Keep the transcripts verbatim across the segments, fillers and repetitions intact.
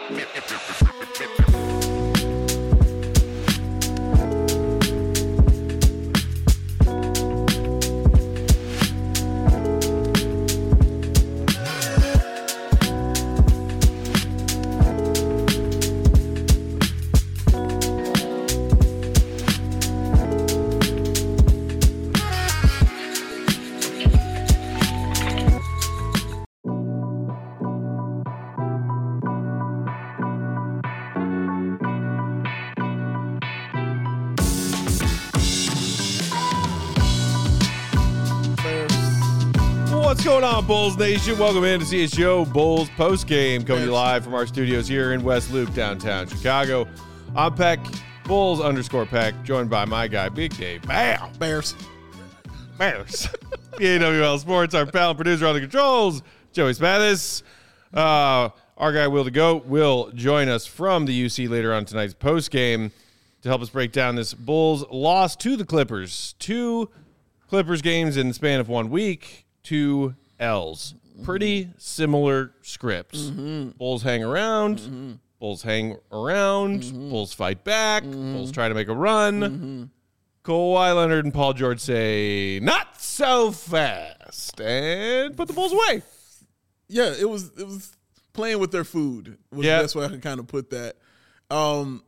What's going on, Bulls Nation? Welcome in to C H G O Bulls postgame, coming to you live from our studios here in West Loop, downtown Chicago. I'm Peck, Bulls underscore Peck, joined by my guy, Big Dave. Bam! Bears. Bears. The A W L Sports, our pal and producer on the controls, Joey Smathis. Uh, our guy, Will the Goat, will join us from the U C later on tonight's postgame to help us break down this Bulls loss to the Clippers. Two Clippers games in the span of one week. Two L's. Pretty similar scripts. Mm-hmm. Bulls hang around. Mm-hmm. Bulls hang around. Mm-hmm. Bulls fight back. Mm-hmm. Bulls try to make a run. Mm-hmm. Kawhi Leonard and Paul George say, not so fast, and put the Bulls away. Yeah, it was it was playing with their food was yeah. the best way I can kind of put that. Um,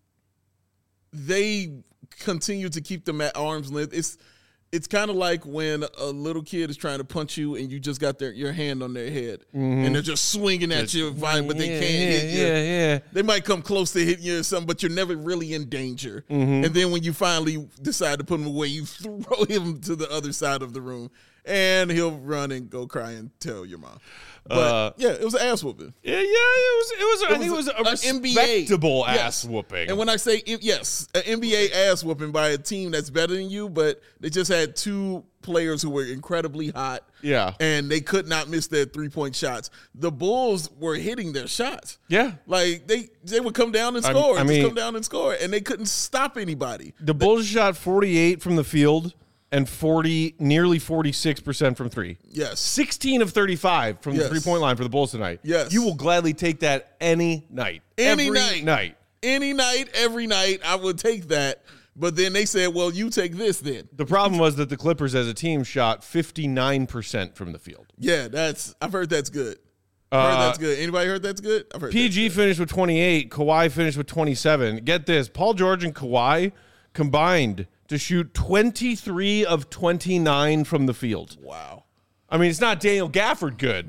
they continue to keep them at arm's length. It's It's kind of like when a little kid is trying to punch you and you just got their your hand on their head mm-hmm. and they're just swinging at it's, you, fine, but they yeah, can't yeah, hit you. Yeah, yeah. They might come close to hitting you or something, but you're never really in danger. Mm-hmm. And then when you finally decide to put him away, you throw him to the other side of the room, and he'll run and go cry and tell your mom. But uh, yeah, it was an ass whooping. Yeah, yeah, it was. It was. It I was think it was a, a respectable N B A, ass yes. whooping. And when I say yes, an N B A ass whooping by a team that's better than you, but they just had two players who were incredibly hot. Yeah, and they could not miss their three point shots. The Bulls were hitting their shots. Yeah, like they they would come down and score. I, I just mean, come down and score, and they couldn't stop anybody. The Bulls shot forty-eight from the field. And forty, nearly forty-six percent from three. Yes. sixteen of thirty-five from yes. the three-point line for the Bulls tonight. Yes. You will gladly take that any night. Any every night. night. Any night, every night, I would take that. But then they said, well, you take this then. The problem was that the Clippers as a team shot fifty-nine percent from the field. Yeah, that's. I've heard that's good. I've heard uh, that's good. Anybody heard that's good? I've heard P G finished with twenty-eight. Kawhi finished with twenty-seven. Get this. Paul George and Kawhi combined to shoot twenty-three of twenty-nine from the field. Wow. I mean, it's not Daniel Gafford good.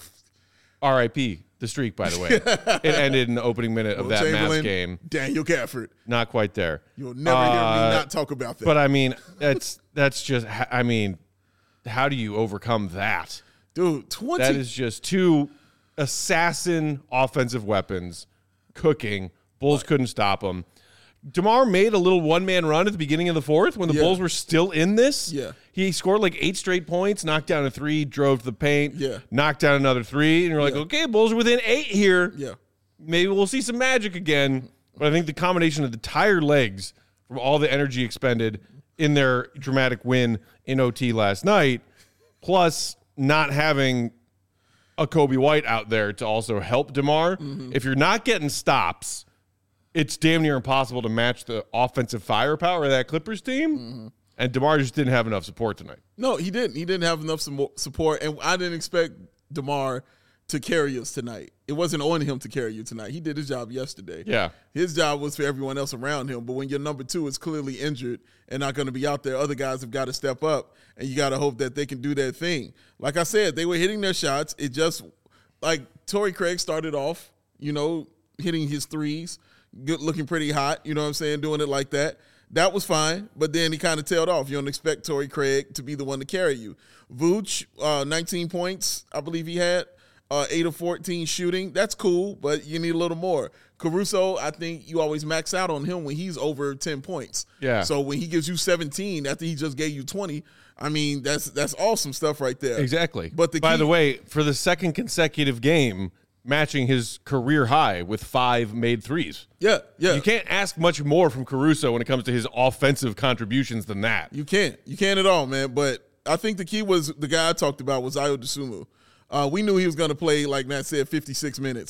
R I P the streak, by the way. It ended in the opening minute of that Mavs game. Daniel Gafford. Not quite there. You'll never uh, hear me not talk about that. But, I mean, that's that's just, I mean, how do you overcome that? Dude, twenty. That is just two assassin offensive weapons cooking. Bulls what? couldn't stop them. DeMar made a little one-man run at the beginning of the fourth when the yeah. Bulls were still in this. Yeah. He scored like eight straight points, knocked down a three, drove to the paint, yeah. knocked down another three, and you're like, yeah. okay, Bulls are within eight here. Yeah. Maybe we'll see some magic again. But I think the combination of the tired legs from all the energy expended in their dramatic win in O T last night, plus not having a Kobe White out there to also help DeMar, mm-hmm. if you're not getting stops, it's damn near impossible to match the offensive firepower of that Clippers team. Mm-hmm. And DeMar just didn't have enough support tonight. No, he didn't. He didn't have enough support. And I didn't expect DeMar to carry us tonight. It wasn't on him to carry you tonight. He did his job yesterday. Yeah. His job was for everyone else around him. But when your number two is clearly injured and not going to be out there, other guys have got to step up. And you got to hope that they can do their thing. Like I said, they were hitting their shots. It just, like Torrey Craig started off, you know, hitting his threes. Good, looking pretty hot, you know what I'm saying, doing it like that. That was fine, but then he kind of tailed off. You don't expect Torrey Craig to be the one to carry you. Vooch, uh, nineteen points, I believe he had, uh, eight of fourteen shooting. That's cool, but you need a little more. Caruso, I think you always max out on him when he's over ten points. Yeah. So when he gives you seventeen after he just gave you twenty, I mean, that's that's awesome stuff right there. Exactly. But the By key- the way, for the second consecutive game, matching his career high with five made threes. Yeah, yeah. You can't ask much more from Caruso when it comes to his offensive contributions than that. You can't. You can't at all, man. But I think the key was the guy I talked about was Ayo Dosunmu. Uh, we knew he was going to play, like Matt said, fifty-six minutes.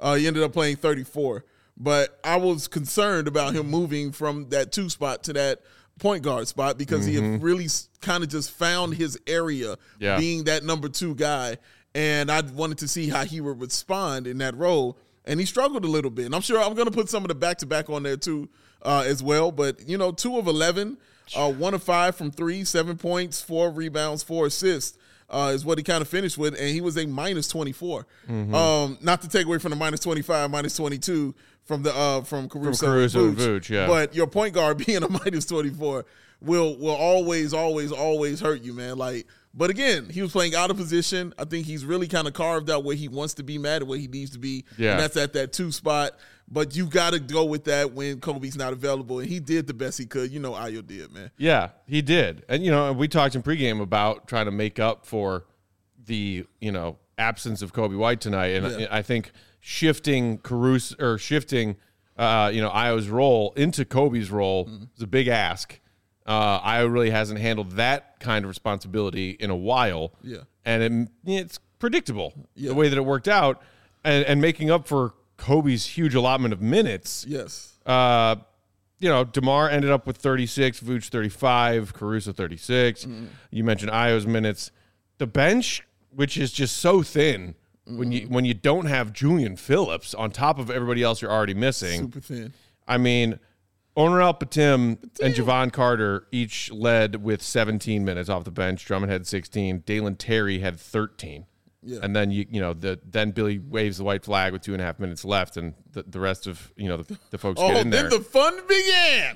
Uh, he ended up playing thirty-four. But I was concerned about him moving from that two spot to that point guard spot because mm-hmm. he had really kind of just found his area yeah. being that number two guy. And I wanted to see how he would respond in that role. And he struggled a little bit. And I'm sure I'm going to put some of the back-to-back on there too uh, as well. But, you know, two of eleven, uh, one of five from three, seven points, four rebounds, four assists. Uh, is what he kind of finished with, and he was a minus twenty-four. Mm-hmm. Um, not to take away from the minus twenty-five, minus twenty-two from the uh, from Caruso, from Caruso and Vooch, yeah. But your point guard being a minus twenty-four will will always, always, always hurt you, man. Like, but again, he was playing out of position. I think he's really kind of carved out where he wants to be mad at where he needs to be, yeah. and that's at that two spot. But you got to go with that when Kobe's not available, and he did the best he could. You know, Ayo did, man. Yeah, he did. And, you know, we talked in pregame about trying to make up for the, you know, absence of Kobe White tonight. And yeah. I think shifting Caruso or shifting, uh, you know, Ayo's role into Kobe's role mm-hmm. is a big ask. Uh, Ayo really hasn't handled that kind of responsibility in a while. Yeah. And it, it's predictable yeah. the way that it worked out. And, and making up for Kobe's huge allotment of minutes. Yes. Uh, you know, DeMar ended up with thirty-six, Vooch thirty-five, Caruso thirty-six. Mm-hmm. You mentioned Ayo's minutes. The bench, which is just so thin mm-hmm. when you when you don't have Julian Phillips on top of everybody else you're already missing. Super thin. I mean, Onuralp Batum and Javon Carter each led with seventeen minutes off the bench. Drummond had sixteen. Dalen Terry had thirteen. Yeah. And then you you know the then Billy waves the white flag with two and a half minutes left, and the, the rest of you know the, the folks oh, get in there. Oh, then the fun began.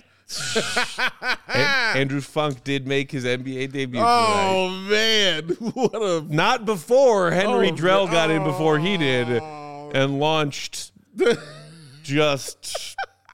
and, Andrew Funk did make his N B A debut. Oh tonight. man, what a not before Henry oh, Drell got oh. in before he did, and launched just.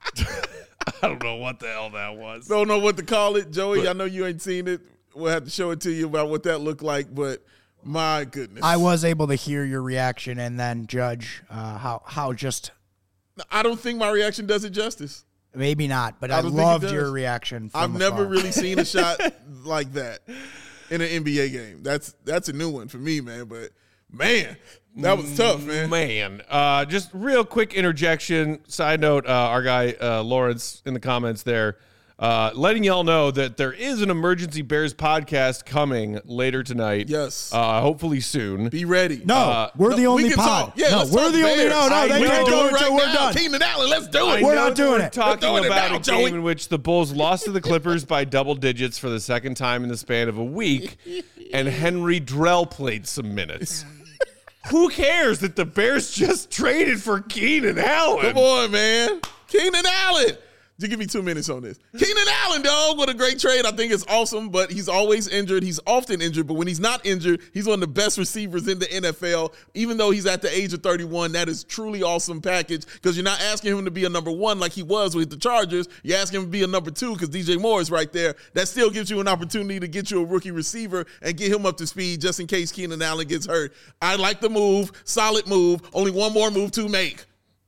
I don't know what the hell that was. Don't know what to call it, Joey. But, I know you ain't seen it. We'll have to show it to you about what that looked like, but. My goodness. I was able to hear your reaction and then judge uh, how how just. I don't think my reaction does it justice. Maybe not, but I, I loved your reaction. From I've afar. never really seen a shot like that in an N B A game. That's that's a new one for me, man. But man, that was tough, man. Man, uh, just real quick interjection. Side note: uh, our guy uh, Lawrence in the comments there. Uh, letting y'all know that there is an Emergency Bears podcast coming later tonight. Yes. Uh, hopefully soon. Be ready. No, uh, we're no, the only we pod. Talk. Yeah, no, let's we're talk the only. Bears. No, no, I they can't do it right until we're now. done. Keenan Allen, let's do it. I We're know not doing we're it. talking We're doing about it now, a Joey. game in which the Bulls lost to the Clippers by double digits for the second time in the span of a week, and Henry Drell played some minutes. Who cares that the Bears just traded for Keenan Allen? Come on, man. Keenan Allen. You give me two minutes on this. Keenan Allen, dog, what a great trade. I think it's awesome, but he's always injured. He's often injured, but when he's not injured, he's one of the best receivers in the N F L. Even though he's at the age of thirty-one, that is truly awesome package because you're not asking him to be a number one like he was with the Chargers. You're asking him to be a number two because D J Moore is right there. That still gives you an opportunity to get you a rookie receiver and get him up to speed just in case Keenan Allen gets hurt. I like the move. Solid move. Only one more move to make.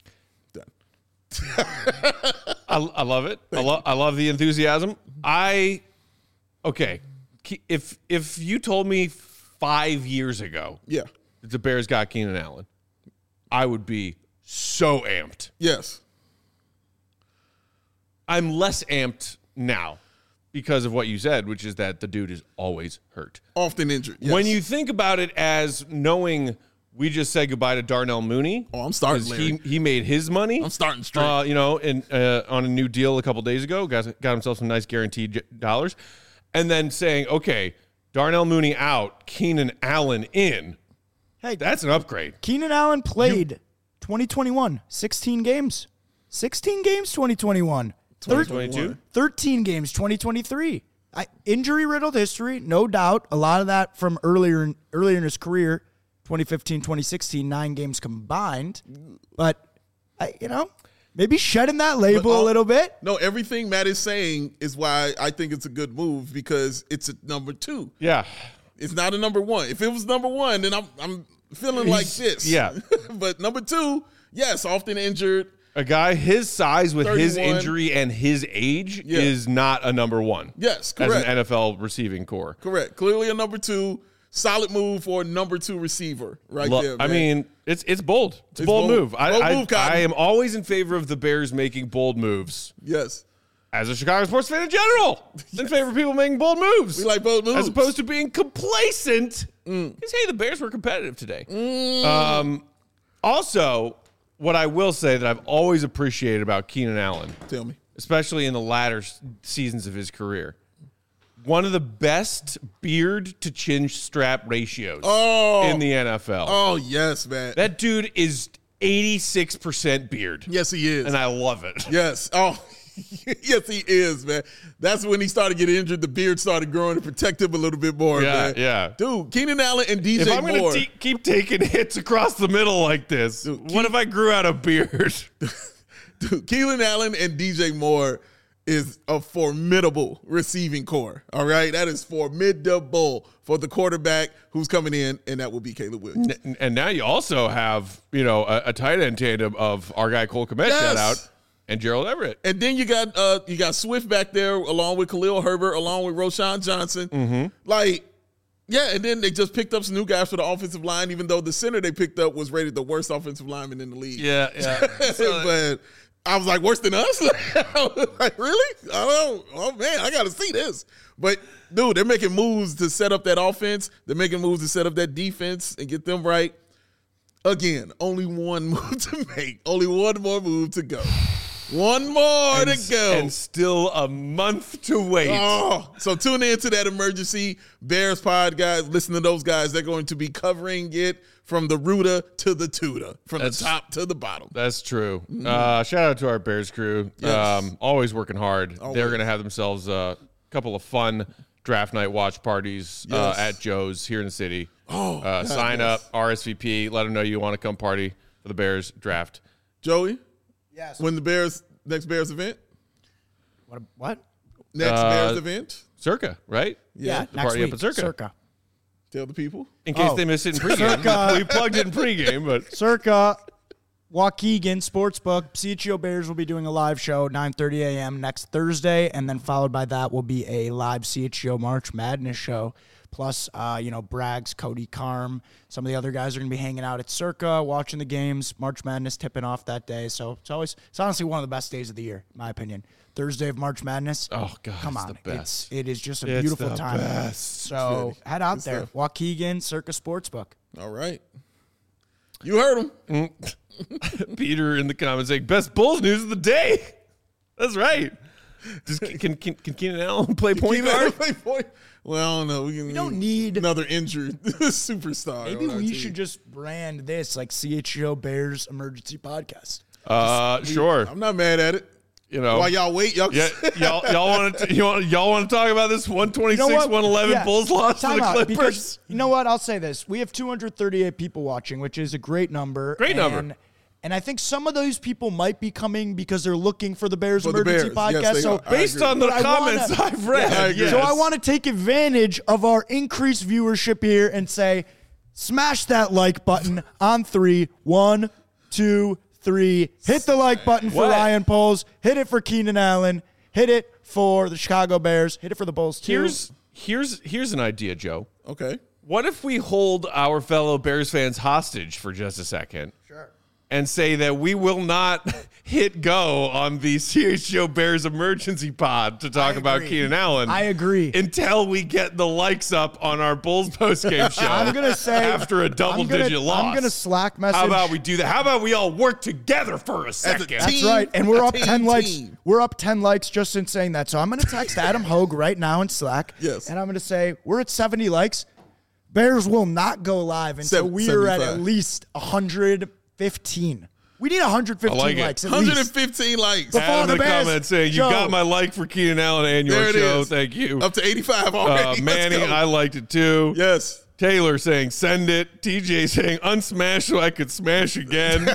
I, I love it. I, lo- I love the enthusiasm. I okay. If if you told me five years ago, yeah, that the Bears got Keenan Allen, I would be so amped. Yes, I'm less amped now because of what you said, which is that the dude is always hurt, often injured. Yes. When you think about it as knowing. We just said goodbye to Darnell Mooney. Oh, I'm starting. He he made his money. I'm starting straight. Uh, you know, in, uh, on a new deal a couple days ago, got got himself some nice guaranteed j- dollars, and then saying, okay, Darnell Mooney out, Keenan Allen in. Hey, that's an upgrade. Keenan Allen played you, twenty twenty-one, sixteen games, sixteen games, twenty twenty-one, twenty twenty-two, thirteen games, twenty twenty-three. I, injury riddled history, no doubt. A lot of that from earlier earlier in his career. twenty fifteen, twenty sixteen, nine games combined. But, I, you know, maybe shedding that label all, a little bit. No, everything Matt is saying is why I think it's a good move because it's a number two. Yeah. It's not a number one. If it was number one, then I'm I'm feeling He's, like this. Yeah. But number two, yes, often injured. A guy his size with thirty-one. His injury and his age yeah. is not a number one. Yes, correct. As an N F L receiving core. Correct. Clearly a number two. solid move for a number two receiver right Lo- there, man. I mean, it's it's bold. It's a It's bold, bold. move. I, Bold I, move, Cotton. I am always in favor of the Bears making bold moves. yes. As a Chicago sports fan in general, in favor of people making bold moves. We like bold moves. As opposed to being complacent. Because, Mm. hey, the Bears were competitive today. Um, also, what I will say that I've always appreciated about Keenan Allen, Tell me. especially in the latter s- seasons of his career, one of the best beard to chin strap ratios Oh. in the N F L. Oh, yes, man. That dude is eighty-six percent beard. yes, he is. And I love it. Yes. Oh, yes, he is, man. That's when he started getting injured. The beard started growing to protect him a little bit more, Yeah, man. yeah. Dude, Keenan Allen and D J If I'm Moore. going to keep taking hits across the middle like this, Dude, what if I grew out a beard? Dude, Keenan Allen and D J Moore is a formidable receiving core. All right, that is formidable for the quarterback who's coming in, and that will be Caleb Williams. N- and now you also have, you know, a, a tight end tandem of our guy Cole Kmet, Yes. shout out, and Gerald Everett. And then you got uh you got Swift back there along with Khalil Herbert, along with Roshan Johnson. Mm-hmm. Like, yeah, and then they just picked up some new guys for the offensive line, even though the center they picked up was rated the worst offensive lineman in the league. Yeah, yeah. but I was like, worse than us? Like, really? I don't, oh man, I gotta see this. But dude, they're making moves to set up that offense. They're making moves to set up that defense and get them right. Again, only one move to make. Only one more move to go. One more and, to go. And still a month to wait. Oh, so tune in to that emergency Bears pod, guys. Listen to those guys. They're going to be covering it from the rooter to the tutor, from That's- the top to the bottom. That's true. Uh, shout out to our Bears crew. Yes. Um, always working hard. Always. They're going to have themselves a couple of fun draft night watch parties uh, Yes. at Joe's here in the city. Oh, uh, God, sign yes. up, R S V P. Let them know you want to come party for the Bears draft. Joey, Yes. when the Bears next Bears event, What? What? next Uh, Bears event, Circa, right? Yeah, the next party up week. at Circa. Circa. tell the people. In case Oh. they missed it in pregame. Circa. We plugged it in pregame, but Circa. Waukegan Sportsbook. C H O Bears will be doing a live show nine thirty a.m. next Thursday, and then followed by that will be a live C H O March Madness show. Plus, uh, you know, Braggs, Cody Carm, some of the other guys are going to be hanging out at Circa, watching the games. March Madness tipping off that day, so it's always, it's honestly one of the best days of the year, in my opinion. Thursday of March Madness. oh god, Come it's on, the best. it's it is just a It's beautiful the time. best. So head out Good there, stuff. Waukegan Circa Sportsbook. All right, you heard him. Peter in the comments saying best Bulls news of the day. That's right. Just can can can Keenan Allen play point Keenan Allen guard? play point? Well, I don't know. We, can, don't need- another injured superstar. Maybe on our we team. should just brand this like C H O Bears Emergency Podcast. Uh, sure. I'm not mad at it. You know, While y'all wait, y'all. yeah, y'all y'all want to you want y'all want to talk about this one twenty-six one eleven Yeah. Bulls loss to Time the out, Clippers? because you know what? I'll say this: we have two hundred thirty-eight people watching, which is a great number. Great and, number. And I think some of those people might be coming because they're looking for the Bears For the Emergency Bears. Yes, Podcast. they so are. I Based agree. on the But I comments wanna- I've read, Yeah, I agree. yes. So I want to take advantage of our increased viewership here and say, smash that like button on three. One, two, three. Hit the like button for What? Ryan Poles. Hit it for Keenan Allen. Hit it for the Chicago Bears. Hit it for the Bulls too. here's here's here's an idea, Joe. Okay. What if we hold our fellow Bears fans hostage for just a second? Sure. And say that we will not hit go on the C H O Bears emergency pod to talk I about agree. Keenan Allen. I agree. Until we get the likes up on our Bulls postgame show. I'm gonna say after a double I'm gonna- digit loss. I'm gonna Slack message. How about we do that? How about we all work together for a second? team. That's right, and we're up Team, ten likes. team. We're up ten likes just in saying that. So I'm gonna text Adam Hogue right now in Slack. Yes. and I'm gonna say we're at seventy likes. Bears will not go live until Seven- we are at seventy-five. at least one hundred fifteen. We need one hundred fifteen I like it. likes at one hundred least. fifteen likes. Before Adam the in the Bears, comments saying, you Joe. got my like for Keenan Allen and your There it show. is. Thank you. Up to eighty-five Uh, already. Let's Manny, go. I liked it too. Yes. Taylor saying, send it. T J saying, unsmash so I could smash again.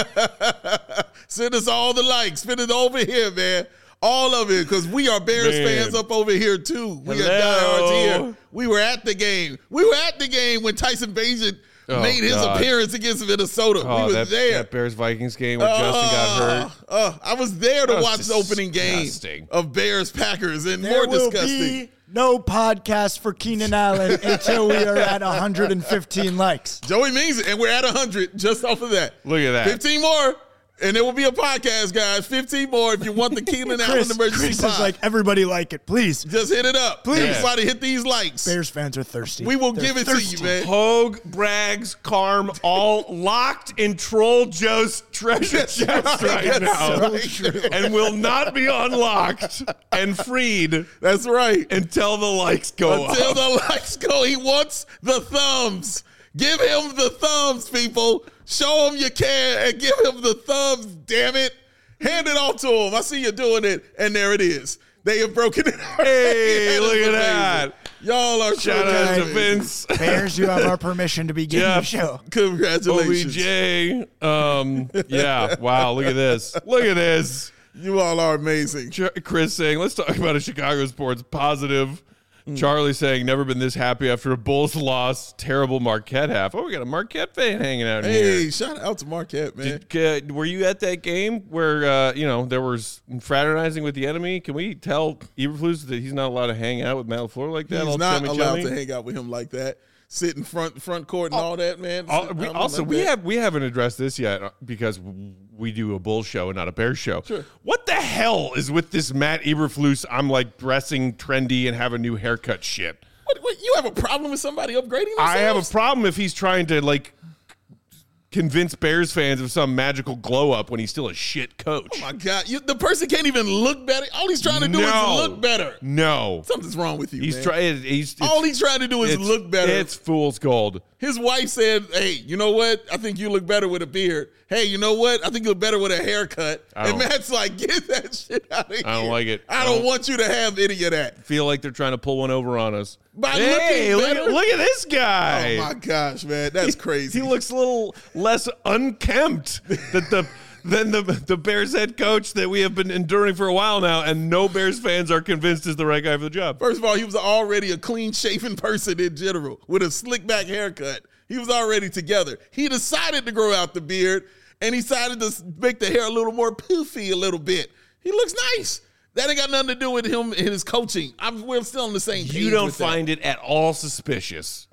Send us all the likes. Send it over here, man. All of it, because we are Bears Man. fans up over here too. We are Hello. diehards here. We were at the game. We were at the game when Tyson Bagent Oh, made his God. appearance against Minnesota. Oh, we were that, there. that Bears-Vikings game where Justin got hurt. Uh, uh, I was there to That was watch the opening game disgusting. of Bears-Packers, and There more will disgusting. be no podcast for Keenan Allen until we are at one hundred fifteen likes. Joey means it, and we're at one hundred just off of that. Look at that. fifteen more, and there will be a podcast, guys. fifteen more if you want the Keenan Allen Chris, emergency Chris pod. is like, everybody like it, please. Just hit it up. Please. Everybody hit these likes. Bears fans are thirsty. We will They're give it thirsty. to you, man. Hogue, Braggs, Carm, all locked in Troll Joe's treasure chest right That's now. so true. And will not be unlocked and freed That's right. until the likes go Until up. the likes go, he wants the thumbs. Give him the thumbs, people. Show him you care and give him the thumbs, damn it. Hand it off to him. I see you doing it, and there it is. They have broken it. Hey, That look is at amazing. that. Y'all are Shout so out to amazing. Vince. Bears, you have our permission to begin Yeah. the show. Congratulations. O B J. Um, yeah, wow, look at this. Look at this. You all are amazing. Ch- Chris saying, let's talk about a Chicago sports positive. Mm. Charlie saying, never been this happy after a Bulls loss. Terrible Marquette half. Oh, we got a Marquette fan hanging out Hey, here. shout out to Marquette, man. Did, uh, were you at that game where, uh, you know, there was fraternizing with the enemy? Can we tell Eberflus that he's not allowed to hang out with Matt LaFleur like that? He's all not chummy allowed chummy? to hang out with him like that. Sit in front front court and all that, man. Al- Sit- we, I don't also, like we that. have we haven't addressed this yet uh, because we do a Bulls show and not a Bears show. Sure. What the hell is with this Matt Eberflus? I'm like dressing trendy and have a new haircut shit. What, what, you have a problem with somebody upgrading themselves? I have a problem if he's trying to like convince Bears fans of some magical glow up when he's still a shit coach. Oh my God, you, the person can't even look better. All he's trying to do No. is look better. No, Something's wrong with you, he's man. trying. He's it's, All he's trying to do is it's- look better. It's fool's gold. His wife said, "Hey, you know what? I think you look better with a beard. Hey, you know what? I think you look better with a haircut." I And don't- Matt's like, "Get that shit out of here. I don't like it. I I don't don't- want you to have any of that." Feel like they're trying to pull one over on us. By hey, looking look better? at, look at this guy. Oh my gosh, man, that's crazy. He looks a little less unkempt than the than the the Bears head coach that we have been enduring for a while now, and no Bears fans are convinced is the right guy for the job. First of all, he was already a clean-shaven person in general with a slick-back haircut. He was already together. He decided to grow out the beard, and he decided to make the hair a little more poofy a little bit. He looks nice. That ain't got nothing to do with him and his coaching. I'm, we're still on the same page. You don't with that. find it at all suspicious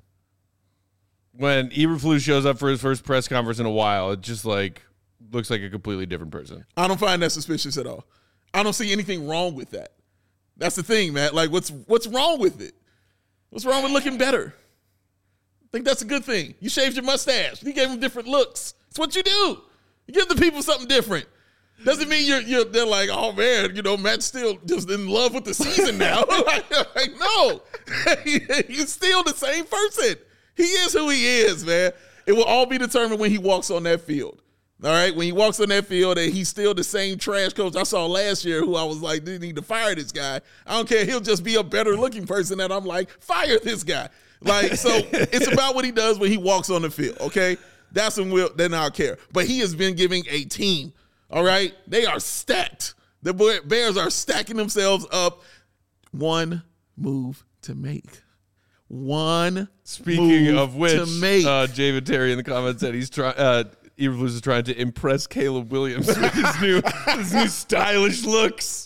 when Eberflus shows up for his first press conference in a while. It just like looks like a completely different person. I don't find that suspicious at all. I don't see anything wrong with that. That's the thing, man. Like, what's what's wrong with it? What's wrong with looking better? I think that's a good thing. You shaved your mustache. You gave them different looks. It's what you do. You give the people something different. Doesn't mean you're, you're they're like, oh man, you know, Matt's still just in love with the season now. like, like, no, he's still the same person. He is who he is, man. It will all be determined when he walks on that field. All right, when he walks on that field and he's still the same trash coach I saw last year, who I was like, they need to fire this guy. I don't care. He'll just be a better looking person that I'm like, fire this guy. Like, so it's about what he does when he walks on the field. Okay, that's when we'll then I'll care. But he has been giving a team. All right, they are stacked. The Bears are stacking themselves up. One move to make. One. Speaking move of which, to make. uh, David Terry in the comments said he's trying. Uh, Eberflus is trying to impress Caleb Williams with his new his new stylish looks.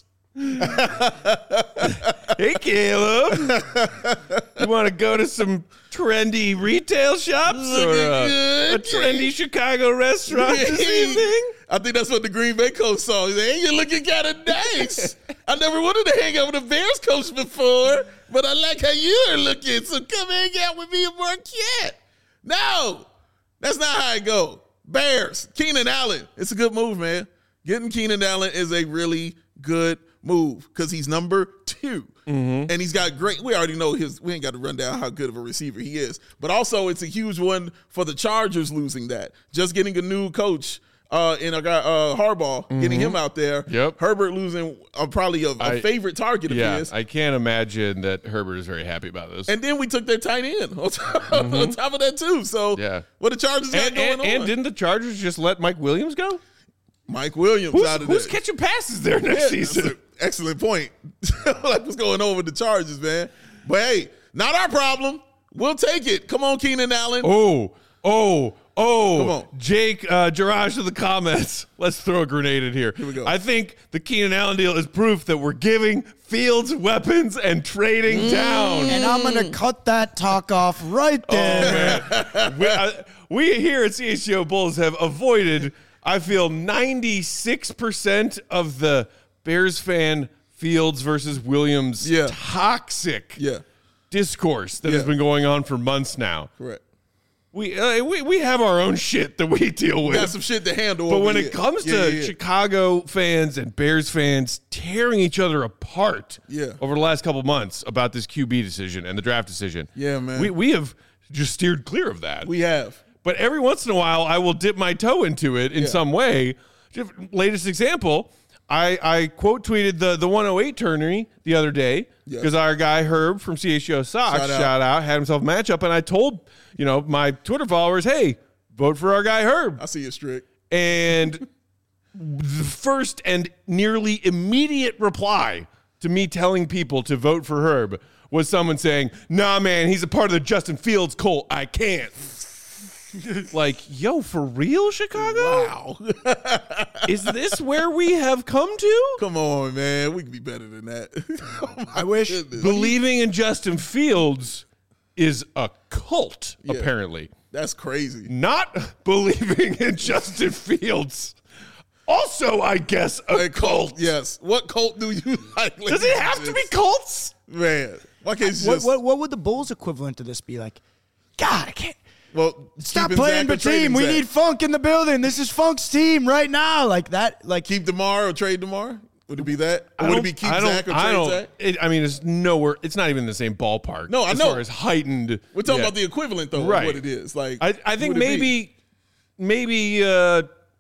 Hey, Caleb, you want to go to some trendy retail shops or Looking uh, good. a trendy Chicago restaurant this evening? I think that's what the Green Bay coach saw. He said, hey, you're looking kind of nice. I never wanted to hang out with a Bears coach before, but I like how you're looking, so come hang out with me in Marquette. No, that's not how it go. Bears, Keenan Allen. It's a good move, man. Getting Keenan Allen is a really good move because he's number two. Mm-hmm. And he's got great, we already know his, we ain't got to run down how good of a receiver he is. But also, it's a huge one for the Chargers losing that. Just getting a new coach uh, in a guy, uh, Harbaugh, mm-hmm. getting him out there. Yep. Herbert losing uh, probably a, a I, favorite target of yeah, his. I can't imagine that Herbert is very happy about this. And then we took their tight end on top, mm-hmm. on top of that, too. So, yeah. what the Chargers got and, going and, on? And didn't the Chargers just let Mike Williams go? Mike Williams Who's, out of who's there. catching passes there next Yeah, season? that's an excellent point. Like what's going on with the Chargers, man? But hey, not our problem. We'll take it. Come on, Keenan Allen. Oh, Oh, oh, Come on. Jake, uh, Jarash in the comments. Let's throw a grenade in here. Here we go. I think the Keenan Allen deal is proof that we're giving Fields weapons and trading Mm. down. And I'm going to cut that talk off right there. Oh, man. we, uh, we here at C H G O Bulls have avoided, I feel, ninety-six percent of the Bears fan Fields versus Williams Yeah. toxic Yeah. discourse that Yeah. has been going on for months now. Correct. We, uh, we we have our own shit that we deal with. Got some shit to handle. But over when here. it comes Yeah, to yeah, yeah. Chicago fans and Bears fans tearing each other apart Yeah. over the last couple months about this Q B decision and the draft decision, Yeah, man. we we have just steered clear of that. we have. But every once in a while, I will dip my toe into it in Yeah. some way. Latest example, I, I quote tweeted the, the one oh eight tourney the other day Yes. because our guy Herb from C H G O Sox, Shout shout out. out. had himself a matchup, and I told you know my Twitter followers, hey, vote for our guy Herb. I see it strict. And the first and nearly immediate reply to me telling people to vote for Herb was someone saying, nah, man, he's a part of the Justin Fields cult. I can't. Like, yo, for real, Chicago? Wow. Is this where we have come to? Come on, man. We can be better than that. Oh, my I wish- goodness. Believing in Justin Fields is a cult, Yeah. apparently. That's crazy. Not believing in Justin Fields. Also, I guess, a A cult. Yes. What cult do you like? Does it have to be cults? Man, why can't you What, just what, what would the Bulls equivalent to this be like? God, I can't. well Stop keeping playing Zach or trading Bateem. We Zach? need Funk in the building. This is Funk's team right now. Like that. Like keep DeMar or trade DeMar? Would it be that? Or I would it don't- be keep I don't- Zach or I trade don't- Zach? It, I mean, it's nowhere. It's not even in the same ballpark. No, I as know. far as heightened. We're talking yeah. about the equivalent though Right. of what it is. Like I, I think would it be? maybe, maybe, uh,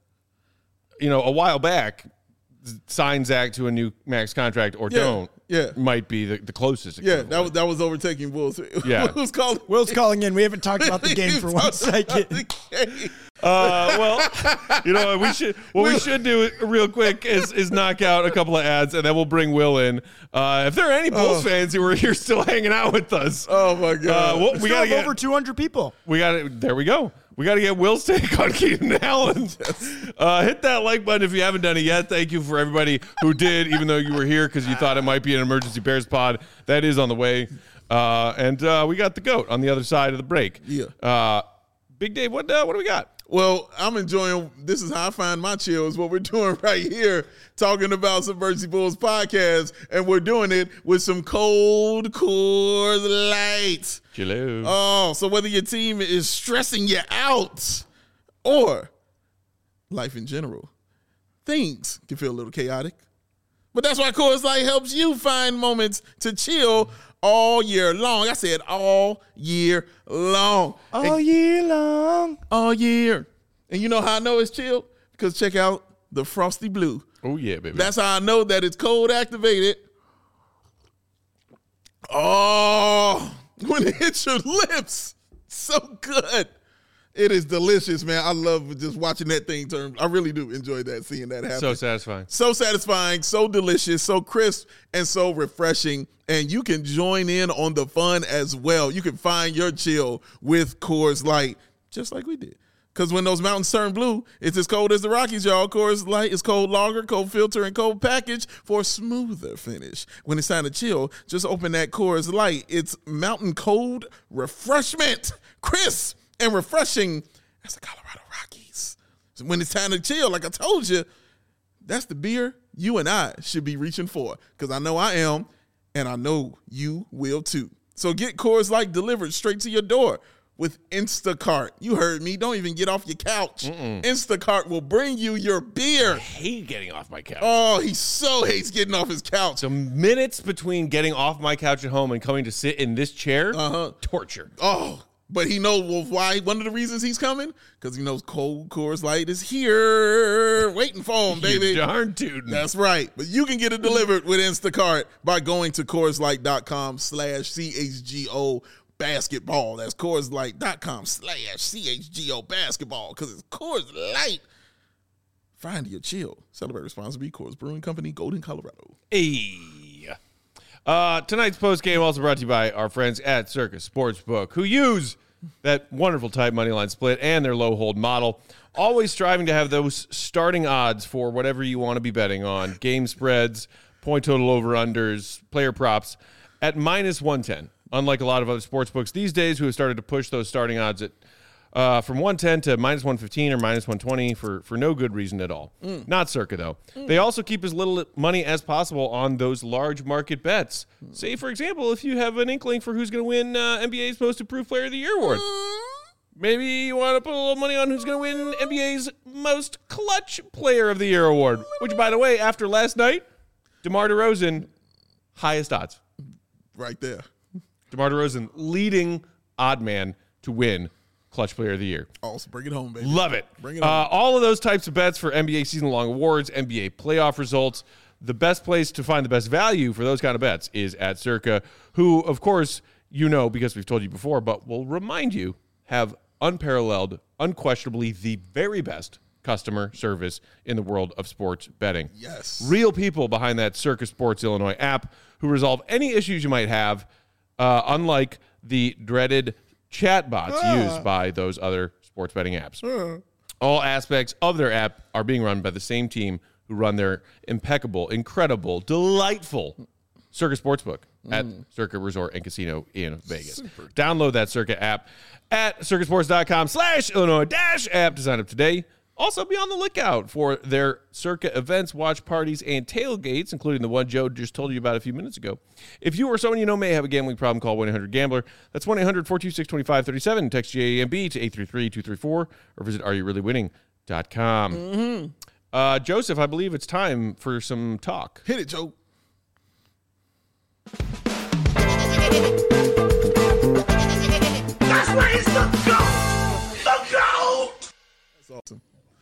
you know, a while back, sign Zach to a new max contract or Yeah, don't. yeah. might be the, the closest. Yeah, equivalent. that was that was overtaking Bulls. Yeah. Who's calling? Will's calling in. We haven't talked about the game for one second. Uh, well, you know, we should what we should do real quick is is knock out a couple of ads, and then we'll bring Will in. Uh, if there are any Bulls Oh. fans who are here still hanging out with us, Oh my god. uh, well, We we got gotta get over two hundred people. we got to there we go. We got to get Will's take on Keenan Allen. Uh, hit that like button if you haven't done it yet. Thank you for everybody who did, even though you were here because you thought it might be an emergency Bears pod. That is on the way. Uh, and uh, we got the GOAT on the other side of the break. Yeah. Uh, Big Dave, what uh, what do we got? Well, I'm enjoying. This is how I find my chill. Is what we're doing right here, talking about Subversive Bulls podcast, and we're doing it with some cold Coors Light. Hello. Oh, so whether your team is stressing you out or life in general, things can feel a little chaotic. But that's why Coors Light helps you find moments to chill all year long. I said all year long. All year long. All year. And you know how I know it's chill? Because check out the Frosty Blue. Oh, yeah, baby. That's how I know that it's cold activated. Oh, when it hits your lips, so good. It is delicious, man. I love just watching that thing turn. I really do enjoy that, seeing that happen. so satisfying. So satisfying, so delicious, so crisp, and so refreshing. And you can join in on the fun as well. You can find your chill with Coors Light, just like we did. Because when those mountains turn blue, it's as cold as the Rockies, y'all. Coors Light is cold lager, cold filter, and cold package for a smoother finish. When it's time to chill, just open that Coors Light. It's mountain cold refreshment, crisp and refreshing as the Colorado Rockies. So when it's time to chill, like I told you, that's the beer you and I should be reaching for, because I know I am, and I know you will too. So get Coors Light delivered straight to your door with Instacart. You heard me. Don't even get off your couch. Mm-mm. Instacart will bring you your beer. I hate getting off my couch. Oh, he so hates getting off his couch. So minutes between getting off my couch at home and coming to sit in this chair, Uh-huh. torture. Oh, but he knows well, why. One of the reasons he's coming, because he knows cold Coors Light is here waiting for him, baby. You darn tootin'. That's right. But you can get it delivered with Instacart by going to CoorsLight.com slash CHGO basketball. That's CoorsLight.com slash CHGO basketball, because it's Coors Light. Find your chill. Celebrate responsibly. Coors Brewing Company, Golden, Colorado. Hey. Uh, tonight's post game also brought to you by our friends at Circus Sportsbook, who use that wonderful tight money line split, and their low hold model. Always striving to have those starting odds for whatever you want to be betting on. Game spreads, point total over-unders, player props at minus one ten. Unlike a lot of other sports books these days who have started to push those starting odds at uh, from one ten to minus one fifteen or minus one twenty for, for no good reason at all. Mm. Not Circa, though. Mm. They also keep as little money as possible on those large market bets. Mm. Say, for example, if you have an inkling for who's going to win uh, N B A's Most Improved Player of the Year award. Mm. Maybe you want to put a little money on who's going to win N B A's Most Clutch Player of the Year award, which, by the way, after last night, DeMar DeRozan, highest odds. Right there. DeMar DeRozan, leading odd man to win Clutch Player of the Year. Also, bring it home, baby. Love it. Bring it home. Uh, all of those types of bets for N B A season-long awards, N B A playoff results. The best place to find the best value for those kind of bets is at Circa, who, of course, you know because we've told you before, but we'll remind you, have unparalleled, unquestionably the very best customer service in the world of sports betting. Yes. Real people behind that Circa Sports Illinois app who resolve any issues you might have, uh, unlike the dreaded chatbots ah. used by those other sports betting apps. Ah. All aspects of their app are being run by the same team who run their impeccable, incredible, delightful Circa Sportsbook at mm. Circa Resort and Casino in Vegas. Super. Download that Circa app at circasports.com slash Illinois dash app to sign up today. Also, be on the lookout for their Circa events, watch parties, and tailgates, including the one Joe just told you about a few minutes ago. If you or someone you know may have a gambling problem, call one eight hundred gambler. That's one eight hundred four two six two five three seven. Text G A M B to eight three three two three four or visit are you really winning dot com. Mm-hmm. Uh, Joseph, I believe it's time for some talk. Hit it, Joe. That's where it's the goat! The goat! That's awesome.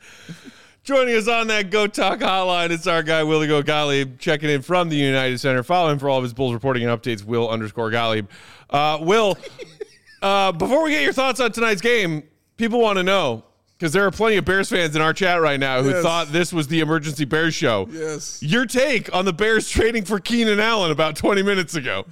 Joining us on that Go Talk hotline, it's our guy, Willie Go Gottlieb, checking in from the United Center. Follow him for all of his Bulls reporting and updates, Will underscore Gottlieb. Uh, Will, uh, before we get your thoughts on tonight's game, people want to know, because there are plenty of Bears fans in our chat right now who yes. thought this was the emergency Bears show. Yes. Your take on the Bears trading for Keenan Allen about twenty minutes ago.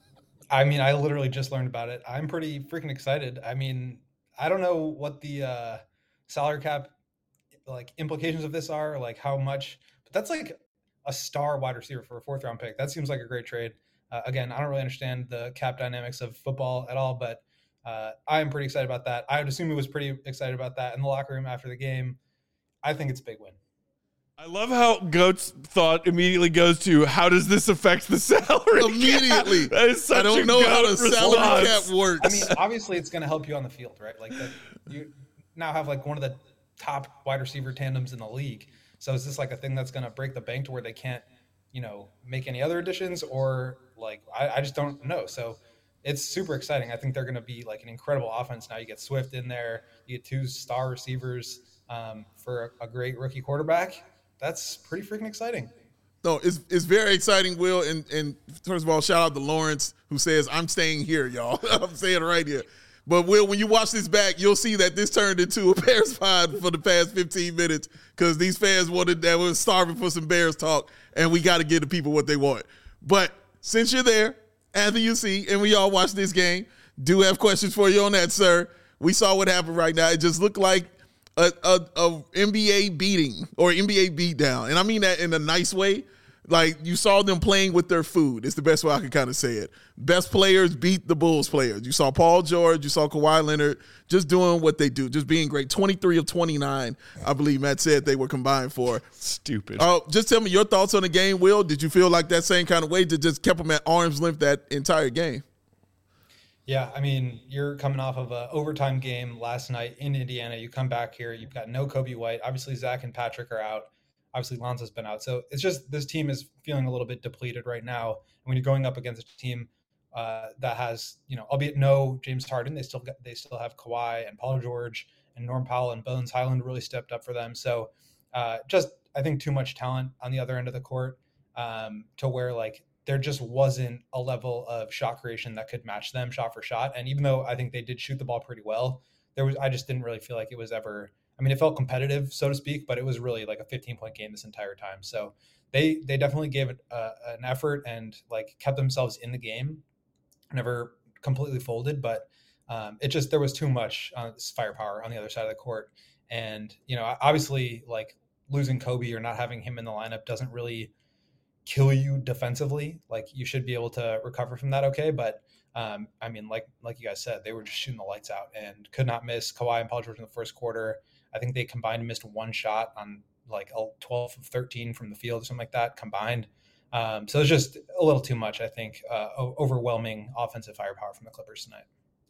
I mean, I literally just learned about it. I'm pretty freaking excited. I mean, I don't know what the uh, salary cap like implications of this are, like how much, but that's like a star wide receiver for a fourth round pick. That seems like a great trade. Uh, again, I don't really understand the cap dynamics of football at all, but uh, I'm pretty excited about that. I would assume he was pretty excited about that in the locker room after the game. I think it's a big win. I love how Goat's thought immediately goes to, how does this affect the salary Immediately. cap? That is such I don't a know how the response. salary cap works. I mean, obviously it's going to help you on the field, right? Like the, you now have like one of the top wide receiver tandems in the league. So is this like a thing that's going to break the bank to where they can't, you know, make any other additions, or like, I, I just don't know. So it's super exciting. I think they're going to be like an incredible offense. Now you get Swift in there, you get two star receivers um, for a, a great rookie quarterback. That's pretty freaking exciting. No, it's it's very exciting, Will. And and first of all, shout out to Lawrence, who says, I'm staying here, y'all. I'm saying it right here. But, Will, when you watch this back, you'll see that this turned into a Bears pod for the past fifteen minutes because these fans wanted that was starving for some Bears talk, and we got to give the people what they want. But since you're there, at the U C, and we all watched this game, do have questions for you on that, sir. We saw what happened right now. It just looked like A, a, a N B A beating or N B A beatdown. And I mean that in a nice way. Like, you saw them playing with their food. It's the best way I can kind of say it. Best players beat the Bulls players. You saw Paul George. You saw Kawhi Leonard just doing what they do, just being great. twenty-three of twenty-nine, I believe Matt said they were combined for. Stupid. Uh, just tell me your thoughts on the game, Will. Did you feel like that same kind of way that just kept them at arm's length that entire game? Yeah, I mean, you're coming off of an overtime game last night in Indiana. You come back here, you've got no Kobe White. Obviously, Zach and Patrick are out. Obviously, Lonzo's been out. So it's just this team is feeling a little bit depleted right now. And when you're going up against a team uh, that has, you know, albeit no James Harden, they still got, they still have Kawhi and Paul George and Norm Powell and Bones Highland really stepped up for them. So uh, just, I think, too much talent on the other end of the court um, to where, like, there just wasn't a level of shot creation that could match them shot for shot. And even though I think they did shoot the ball pretty well, there was, I just didn't really feel like it was ever, I mean, it felt competitive, so to speak, but it was really like a fifteen point game this entire time. So they, they definitely gave it uh, an effort and like kept themselves in the game, never completely folded. But Um, it just, there was too much uh, firepower on the other side of the court. And, you know, obviously like losing Kobe or not having him in the lineup doesn't really kill you defensively. Like you should be able to recover from that. Okay. But um, I mean, like, like you guys said, they were just shooting the lights out and could not miss. Kawhi and Paul George in the first quarter. I think they combined missed one shot on like twelve of thirteen from the field or something like that combined. Um, so it's just a little too much, I think, uh, overwhelming offensive firepower from the Clippers tonight.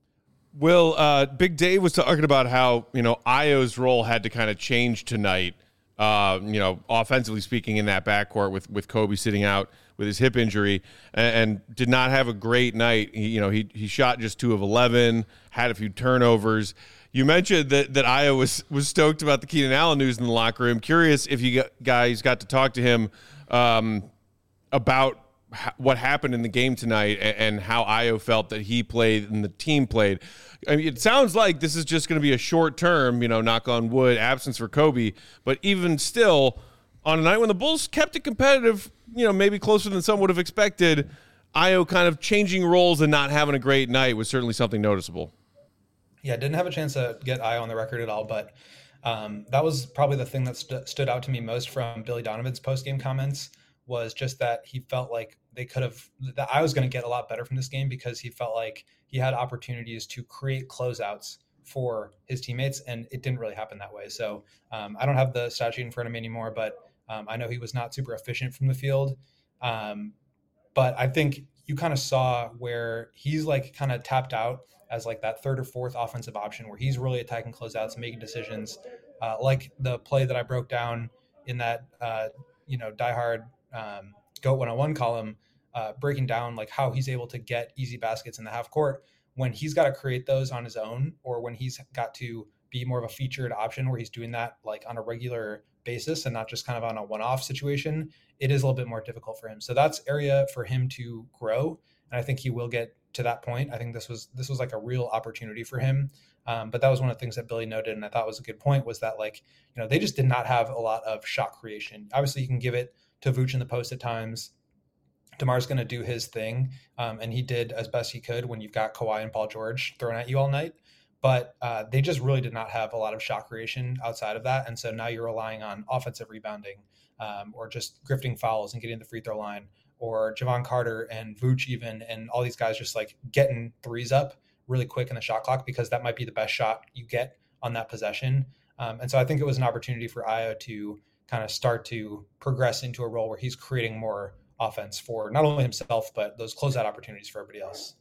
Will, uh, Big Dave was talking about how, you know, Io's role had to kind of change tonight, uh, you know, offensively speaking in that backcourt with, with Kobe sitting out with his hip injury and, and did not have a great night. He, you know, he he shot just two of eleven, had a few turnovers. You mentioned that, that Io was, was stoked about the Keenan Allen news in the locker room. Curious if you guys got to talk to him um, about what happened in the game tonight and how Io felt that he played and the team played. I mean, it sounds like this is just going to be a short term, you know, knock on wood, absence for Kobe. But even still, on a night when the Bulls kept it competitive, you know, maybe closer than some would have expected, Io kind of changing roles and not having a great night was certainly something noticeable. Yeah, didn't have a chance to get Io on the record at all, but um, that was probably the thing that st- stood out to me most from Billy Donovan's post-game comments was just that he felt like they could have, that I was going to get a lot better from this game because he felt like he had opportunities to create closeouts for his teammates, and it didn't really happen that way. So um, I don't have the stat sheet in front of me anymore, but um, I know he was not super efficient from the field. Um, but I think you kind of saw where he's like kind of tapped out as like that third or fourth offensive option where he's really attacking closeouts and making decisions uh, like the play that I broke down in that, uh, you know, diehard um, GOAT one oh one column, uh, breaking down like how he's able to get easy baskets in the half court when he's got to create those on his own, or when he's got to be more of a featured option where he's doing that like on a regular basis and not just kind of on a one-off situation. It is a little bit more difficult for him. So that's area for him to grow. And I think he will get to that point. I think this was, this was like a real opportunity for him. Um, but that was one of the things that Billy noted. And I thought was a good point was that like, you know, they just did not have a lot of shot creation. Obviously you can give it to Vooch in the post at times. DeMar's going to do his thing. Um, and he did as best he could when you've got Kawhi and Paul George thrown at you all night. But uh, they just really did not have a lot of shot creation outside of that. And so now you're relying on offensive rebounding um, or just grifting fouls and getting the free throw line, or Javon Carter and Vooch even, and all these guys just like getting threes up really quick in the shot clock because that might be the best shot you get on that possession. Um, and so I think it was an opportunity for Io to kind of start to progress into a role where he's creating more offense for not only himself, but those closeout opportunities for everybody else.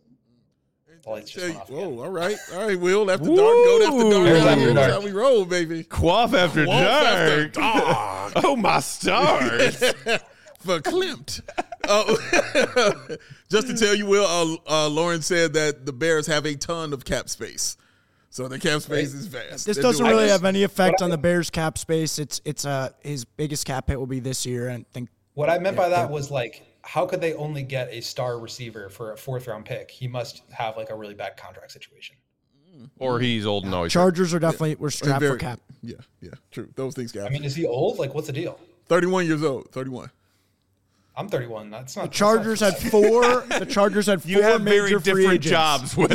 The lights just went off again. Whoa, all right. All right, Will. After dark, go after dark. There's after Here's dark. how we roll, baby. Quaff after Quaff after dark. dark. Oh, my stars. For Klimt. Uh, just to tell you, Will, uh, uh, Lauren said that the Bears have a ton of cap space. So the cap space is vast. This They're doesn't doing really it. have any effect on the Bears cap space. It's it's uh his biggest cap hit will be this year, and I think What I meant by that was like, how could they only get a star receiver for a fourth round pick? He must have like a really bad contract situation. Or he's old and always Chargers are definitely we're strapped Very- for cap. Yeah, yeah, true. Those things got I mean, is he old? Like, what's the deal? thirty-one years old, thirty-one. I'm thirty-one. That's not. The Chargers had four. The Chargers had four You have very major free different agents. jobs, Will.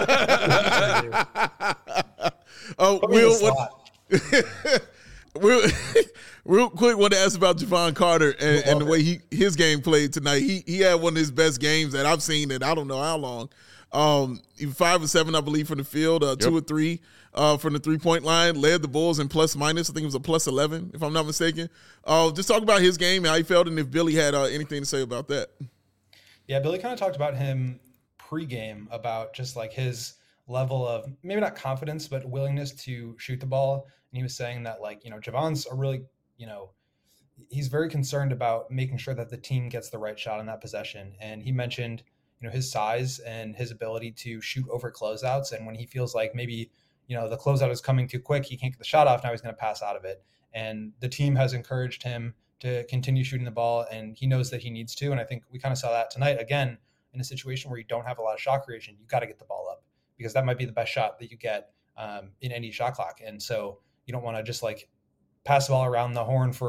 Oh, Put me in Will, the what, slot. real, real quick, want to ask about Javon Carter and, and the way he his game played tonight. He he had one of his best games that I've seen in I don't know how long. Um, he was five or seven, I believe, from the field, uh, two or three uh, from the three point line. Led the Bulls in plus minus. I think it was a plus eleven, if I'm not mistaken. Uh, just talk about his game, how he felt, and if Billy had uh, anything to say about that. Yeah, Billy kind of talked about him pregame about just like his level of maybe not confidence, but willingness to shoot the ball. And he was saying that like, you know, Javon's a really, you know, he's very concerned about making sure that the team gets the right shot on that possession. And he mentioned, you know, his size and his ability to shoot over closeouts. And when he feels like maybe, you know, the closeout is coming too quick, he can't get the shot off. Now he's going to pass out of it. And the team has encouraged him to continue shooting the ball, and he knows that he needs to. And I think we kind of saw that tonight again in a situation where you don't have a lot of shot creation. You got to get the ball up because that might be the best shot that you get um, in any shot clock. And so you don't want to just like pass the ball around the horn for,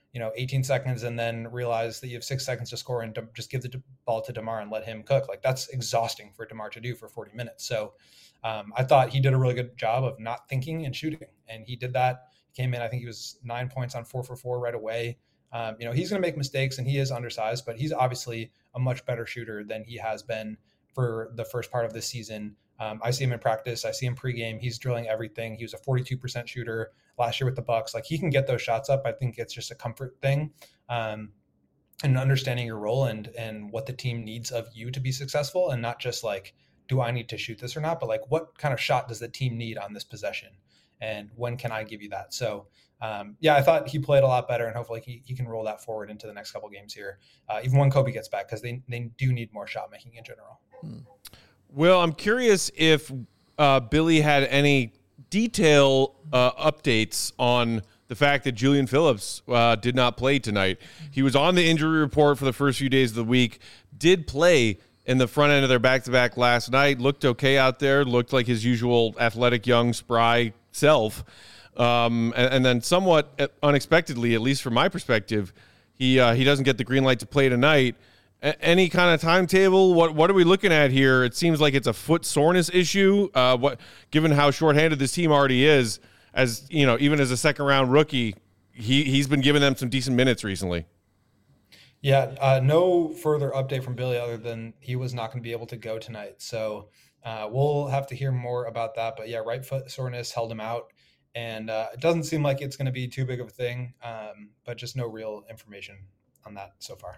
you know, eighteen seconds and then realize that you have six seconds to score and to just give the ball to DeMar and let him cook. Like that's exhausting for DeMar to do for forty minutes. So um, I thought he did a really good job of not thinking and shooting. And he did that. He came in, I think he was nine points on four for four right away. Um, you know, he's going to make mistakes and he is undersized, but he's obviously a much better shooter than he has been for the first part of this season. Um, I see him in practice. I see him pregame. He's drilling everything. He was a forty-two percent shooter last year with the Bucks. Like he can get those shots up. I think it's just a comfort thing, um, and understanding your role and and what the team needs of you to be successful, and not just like, do I need to shoot this or not, but like what kind of shot does the team need on this possession, and when can I give you that? So um, yeah, I thought he played a lot better, and hopefully he he can roll that forward into the next couple games here, uh, even when Kobe gets back, because they they do need more shot making in general. Hmm. Well, I'm curious if uh, Billy had any detail uh, updates on the fact that Julian Phillips uh, did not play tonight. He was on the injury report for the first few days of the week, did play in the front end of their back-to-back last night, looked okay out there, looked like his usual athletic, young, spry self. Um, and, and then somewhat unexpectedly, at least from my perspective, he uh, he doesn't get the green light to play tonight. Any kind of timetable? What what are we looking at here? It seems like it's a foot soreness issue. Uh, what, given how shorthanded this team already is, as you know, even as a second round rookie, he he's been giving them some decent minutes recently. Yeah, uh, no further update from Billy other than he was not going to be able to go tonight. So uh, we'll have to hear more about that. But yeah, right foot soreness held him out, and uh, it doesn't seem like it's going to be too big of a thing. Um, but just no real information on that so far.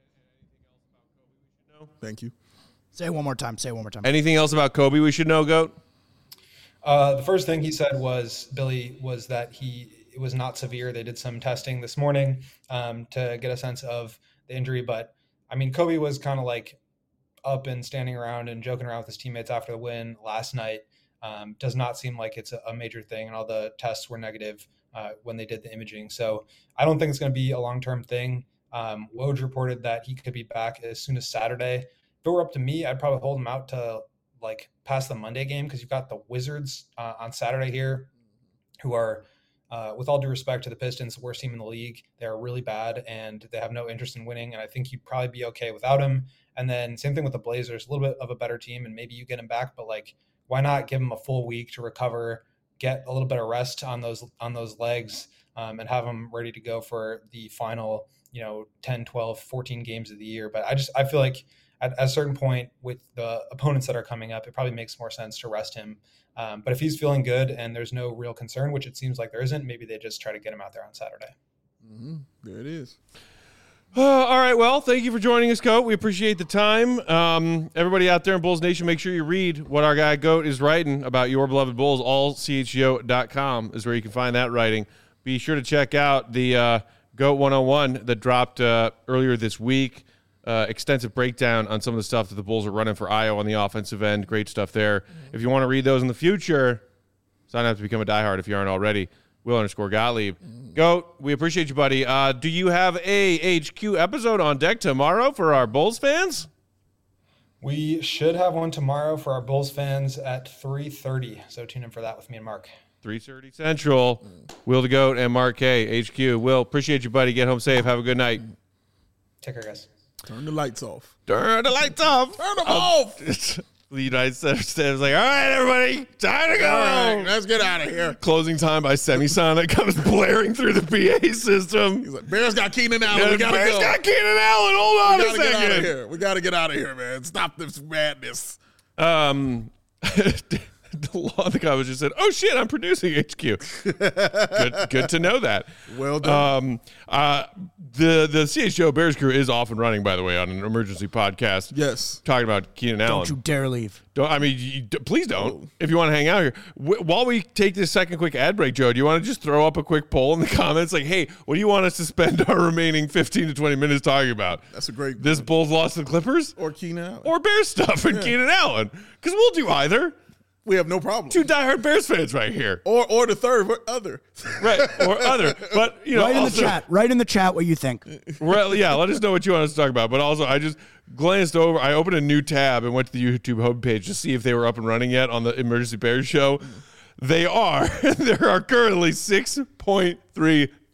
Thank you. Say it one more time. Say it one more time. Anything else about Kobe we should know, Goat? Uh, the first thing he said was, Billy, was that he it was not severe. They did some testing this morning um, to get a sense of the injury. But, I mean, Kobe was kind of like up and standing around and joking around with his teammates after the win last night. Um, does not seem like it's a, a major thing, and all the tests were negative uh, when they did the imaging. So I don't think it's going to be a long-term thing. Um, Woj reported that he could be back as soon as Saturday. If it were up to me, I'd probably hold him out to like past the Monday game, because you've got the Wizards uh, on Saturday here, who are, uh, with all due respect to the Pistons, the worst team in the league. They're really bad and they have no interest in winning. And I think you'd probably be okay without him. And then same thing with the Blazers, a little bit of a better team, and maybe you get him back, but like, why not give him a full week to recover, get a little bit of rest on those on those legs, um, and have him ready to go for the final, you know, ten, twelve, fourteen games of the year. But I just, I feel like at, at a certain point with the opponents that are coming up, it probably makes more sense to rest him. Um, but if he's feeling good and there's no real concern, which it seems like there isn't, maybe they just try to get him out there on Saturday. Mm-hmm. There it is. Uh, all right. Well, thank you for joining us, Goat. We appreciate the time. Um, everybody out there in Bulls Nation, make sure you read what our guy Goat is writing about your beloved Bulls. all c h g o dot com is where you can find that writing. Be sure to check out the uh, Goat one oh one that dropped uh, earlier this week. Uh, extensive breakdown on some of the stuff that the Bulls are running for Io on the offensive end. Great stuff there. Mm-hmm. If you want to read those in the future, sign up to become a diehard if you aren't already. Will underscore Gottlieb. Mm. Goat, we appreciate you, buddy. Uh, do you have a H Q episode on deck tomorrow for our Bulls fans? We should have one tomorrow for our Bulls fans at three thirty. So tune in for that with me and Mark. three thirty Central. Mm. Will the Goat and Mark K, H Q. Will, appreciate you, buddy. Get home safe. Have a good night. Take care, guys. Turn the lights off. Turn the lights off. Turn them um, off. The United States was like, all right, everybody, time to go. All right, let's get out of here. Closing time by Semisonic comes blaring through the P A system. He's like, Bears got Keenan Allen. Yeah, we gotta Bears go. got Keenan Allen. Hold on we a gotta get out of second. here. We got to get out of here, man. Stop this madness. Um, the law the guy was just said, oh shit, I'm producing H Q. good, good to know that. Well done. Um, uh, the the C H G O Bears crew is off and running, by the way, on an emergency podcast. Yes, talking about Keenan Allen. Don't you dare leave. Don't I mean? You, please don't. Oh. If you want to hang out here, w- while we take this second quick ad break, Joe, do you want to just throw up a quick poll in the comments, like, hey, what do you want us to spend our remaining fifteen to twenty minutes talking about? That's a great. This Bulls lost to the Clippers, or Keenan Allen, or Bears stuff and yeah. Keenan Allen, because we'll do either. We have no problem. Two diehard Bears fans right here. Or or the third, or other. Right, or other. But, you know, Write in also, the chat. Write in the chat what you think. Well, yeah, let us know what you want us to talk about. But also, I just glanced over. I opened a new tab and went to the YouTube homepage to see if they were up and running yet on the Emergency Bears show. They are. There are currently six point three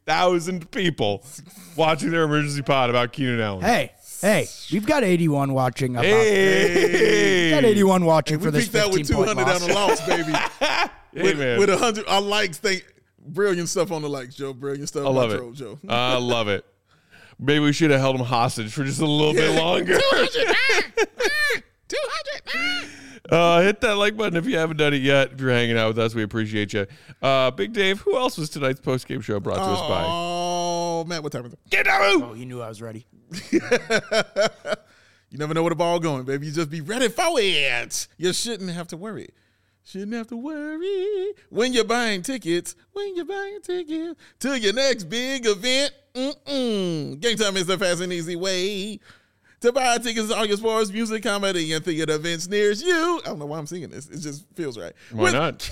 thousand people watching their emergency pod about Keenan Allen. Hey, hey, we've got eighty-one watching. About, Hey. We've got eighty-one watching We for this peaked out with two fifteen-point hundred loss. on the loss, baby. Hey, with, man. with one hundred our likes. Thank, brilliant stuff on the likes, Joe. Brilliant stuff. I love by it. Troll, Joe. I love it. Maybe we should have held him hostage for just a little bit longer. two hundred. two hundred. Uh, hit that like button if you haven't done it yet. If you're hanging out with us, we appreciate you. Uh, Big Dave, who else was tonight's post-game show brought to us by? Oh, Matt, what time is it? Get out! Oh, he knew I was ready. You never know where the ball going, baby. You just be ready for it. You shouldn't have to worry. Shouldn't have to worry when you're buying tickets. When you're buying tickets to your next big event. Mm-mm. Game Time is the fast and easy way to buy tickets to all your sports, music, comedy, and theater events near you. I don't know why I'm singing this. It just feels right. Why With- not?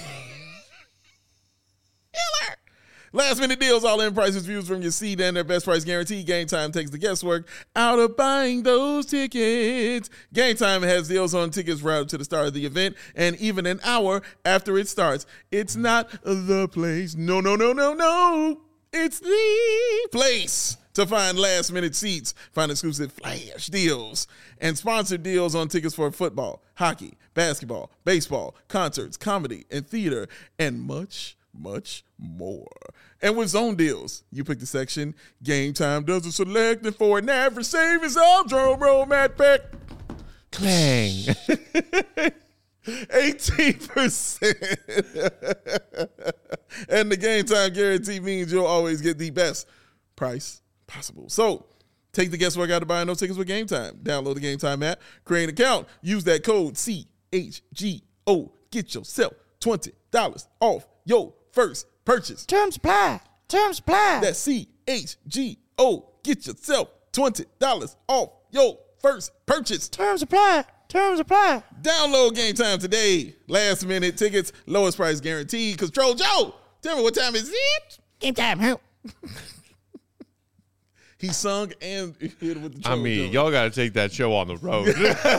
Last minute deals, all in prices, views from your seat, and their best price guarantee. Game Time takes the guesswork out of buying those tickets. Game Time has deals on tickets right up to the start of the event and even an hour after it starts. It's not the place. No, no, no, no, no. It's the place to find last minute seats, find exclusive flash deals, and sponsored deals on tickets for football, hockey, basketball, baseball, concerts, comedy, and theater, and much, much more. And with zone deals, you pick the section Game Time does the selecting for an average savings of drum roll, Matt Peck. Clang. eighteen percent. And the Game Time guarantee means you'll always get the best price possible. So take the guesswork out of buying those tickets with Game Time. Download the Game Time app, create an account, use that code C H G O. Get yourself twenty dollars off your first purchase. Terms apply. Terms apply. That's C H G O. Get yourself twenty dollars off your first purchase. Terms apply. Terms apply. Download Game Time today. Last minute tickets, lowest price guaranteed. Control Joe, tell me what time is it? Game time. Help. He sung and hit it with the I Troll mean, Joe. y'all got to take that show on the road.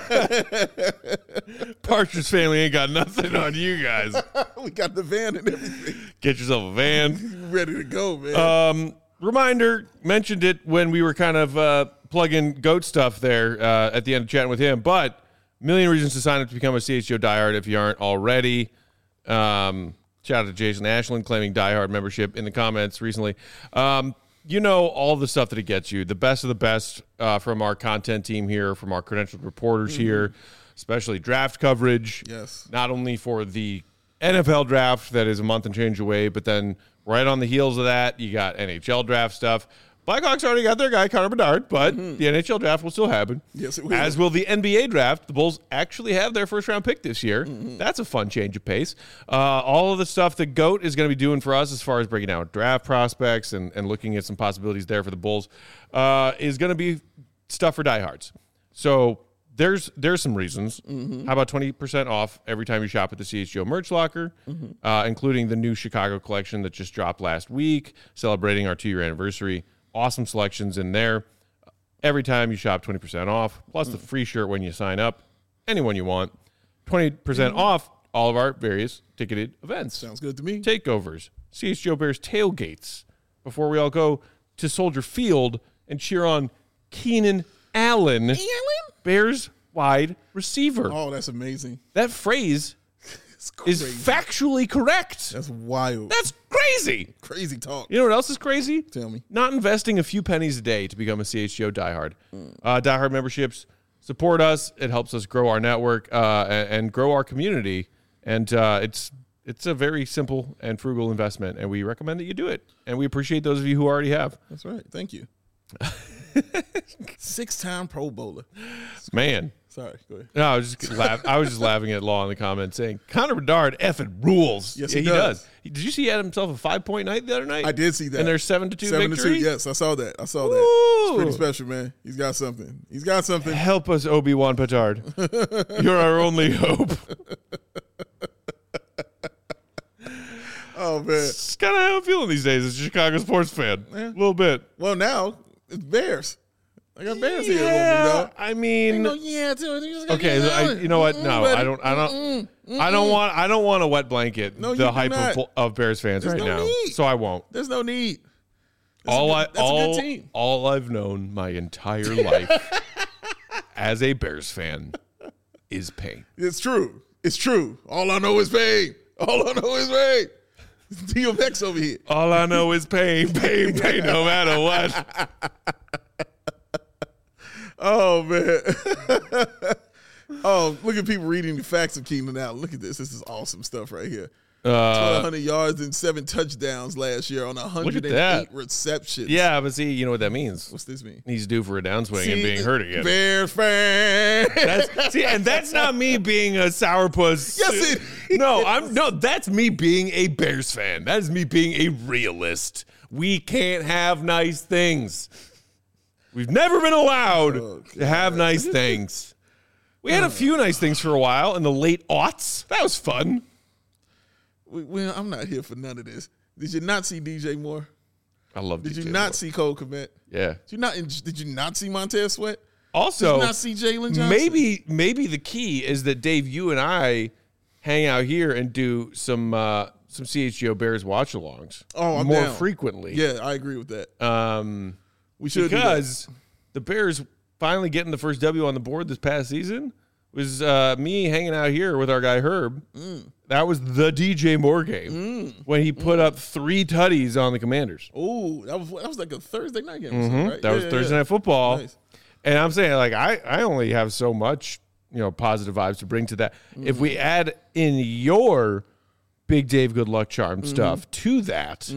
Partridge Family ain't got nothing on you guys. We got the van and everything. Get yourself a van. Ready to go, man. Um, reminder, mentioned it when we were kind of uh, plugging GOAT stuff there uh, at the end of chatting with him, but million reasons to sign up to become a C H G O diehard if you aren't already. Um, shout out to Jason Ashland claiming diehard membership in the comments recently. Um, you know all the stuff that it gets you, the best of the best uh, from our content team here, from our credentialed reporters mm-hmm. here, especially draft coverage. Yes. Not only for the N F L draft that is a month and change away, but then right on the heels of that, you got N H L draft stuff. Blackhawks already got their guy, Connor Bedard, but mm-hmm. the N H L draft will still happen. Yes, it will. As will the N B A draft. The Bulls actually have their first round pick this year. Mm-hmm. That's a fun change of pace. Uh, all of the stuff that GOAT is going to be doing for us as far as breaking down draft prospects and, and looking at some possibilities there for the Bulls uh, is going to be stuff for diehards. So there's there's some reasons. Mm-hmm. How about twenty percent off every time you shop at the C H G O merch locker, mm-hmm. uh, including the new Chicago collection that just dropped last week, celebrating our two-year anniversary. Awesome selections in there. Every time you shop, twenty percent off, plus mm. the free shirt when you sign up. Anyone you want. twenty percent mm. off all of our various ticketed events. Sounds good to me. Takeovers, C H G O Bears tailgates, before we all go to Soldier Field and cheer on Keenan Allen, Allen? Bears wide receiver. Oh, that's amazing. That phrase is factually correct. That's wild. That's crazy. Crazy talk. You know what else is crazy? Tell me. Not investing a few pennies a day to become a C H G O diehard. Mm. Uh, diehard memberships support us. It helps us grow our network uh, and, and grow our community. And uh, it's it's a very simple and frugal investment, and we recommend that you do it. And we appreciate those of you who already have. That's right. Thank you. Six-time Pro Bowler. Man. Sorry, go ahead. No, I was just laugh- I was just laughing at Law in the comments saying Connor Bedard effing rules. Yes, yeah, he, he does. does. Did you see he had himself a five point night the other night? I did see that. And there's seven to two Seven victory. to two. Yes, I saw that. I saw Woo! that. It's pretty special, man. He's got something. He's got something. Help us, Obi-Wan Petard. You're our only hope. Oh man, It's kind of how I'm feeling these days as a Chicago sports fan. Yeah. A little bit. well now it's Bears. I got Bears here with me, Yeah, dog. I mean, No, yeah, dude. You just gotta okay. get I, it out. you know what? Mm-mm, No, buddy. I don't. I don't. Mm-mm, I don't mm-mm. want. I don't want a wet blanket. No, you the do hype not. of, of Bears fans There's right no now. need. So I won't. There's no need. all a I good, that's all a good team. all I've known my entire life as a Bears fan is pain. It's true. It's true. All I know is pain. All I know is pain. D M X over here. All I know is pain, pain, pain, no matter what. Oh, man. Oh, look at people reading the facts of Keenan Allen. Look at this. This is awesome stuff right here. Uh, twelve hundred yards and seven touchdowns last year on one hundred eight that. receptions. Yeah, but see, you know what that means. What's this mean? He's due for a downswing See, and being hurt again. Bears fan. That's, see, and that's not me being a sourpuss. Yes, it No, is. I'm no. That's me being a Bears fan. That is me being a realist. We can't have nice things. We've never been allowed Oh, to have nice things. We had a few nice things for a while in the late aughts. That was fun. We- Well, I'm not here for none of this. Did you not see D J Moore? I love. Did D J you not Moore. see Cole Kmet? Yeah. Did you not? Did you not see Montez Sweat? Also, Did you not see Jalen Johnson? maybe maybe the key is that Dave, you and I hang out here and do some uh, some C H G O Bears watch-alongs Oh, I'm more down. frequently. Yeah, I agree with that. Um, We should do that. because the Bears finally getting the first W on the board this past season was uh, me hanging out here with our guy Herb. Mm. That was the D J Moore game when he put up three tutties on the Commanders. Oh, that was that was like a Thursday night game, or Mhm. something, right? That was Yeah, Thursday yeah. Night Football. Nice. And I'm saying, like, I, I only have so much, you know, positive vibes to bring to that. If Mm-hmm. we add in your Big Dave Good Luck Charm Mm-hmm. stuff to that,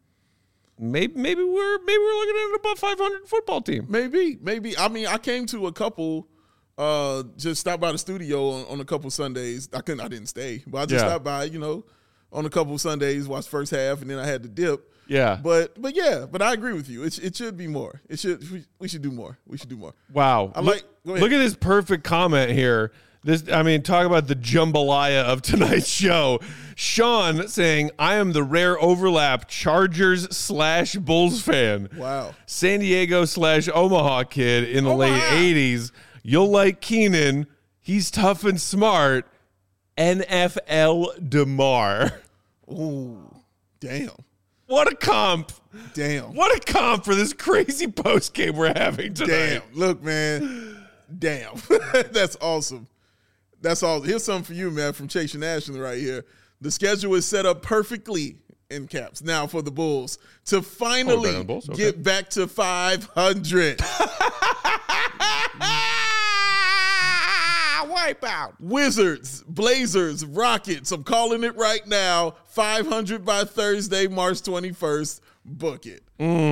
maybe maybe we're maybe we're looking at an above five hundred football team. Maybe, maybe. I mean, I came to a couple. Uh, just stopped by the studio on, on a couple Sundays. I couldn't. I didn't stay, but I just Yeah. stopped by. You know, on a couple Sundays, watched first half, and then I had to dip. Yeah. But but yeah, but I agree with you. It, it should be more. It should. We, we should do more. We should do more. Wow. I look, like- go ahead. look at this perfect comment here. This, I mean, talk about the jambalaya of tonight's show. Sean saying, I am the rare overlap Chargers slash Bulls fan. Wow. San Diego slash Omaha kid in the late Omaha. eighties. You'll like Keenan. He's tough and smart. N F L DeMar. Ooh, damn, What a comp. damn, What a comp for this crazy post game we're having tonight. damn. Look, man, damn. That's awesome. That's all. Here's something for you, man, from Chase National right here. The schedule is set up perfectly in caps now for the Bulls to finally Oh, better than the Bulls? Okay. get back to five hundred. Wipeout. Wizards, Blazers, Rockets. I'm calling it right now. five hundred by Thursday, March twenty-first. Book it.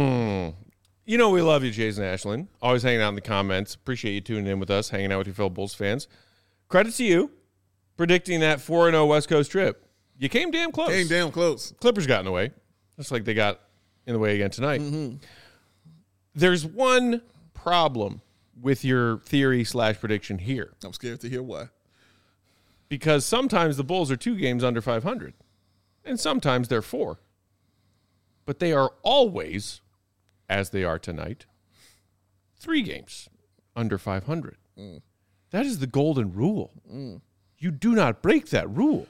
You know we love you, Jason Ashland. Always hanging out in the comments. Appreciate you tuning in with us, hanging out with your fellow Bulls fans. Credit to you predicting that four and oh West Coast trip. You came damn close. Came damn close. Clippers got in the way, just like they got in the way again tonight. There's one problem with your theory slash prediction here, I'm scared to hear why. because sometimes the Bulls are two games under five hundred, and sometimes they're four. But they are always, as they are tonight, three games under five hundred. That is the golden rule. You do not break that rule.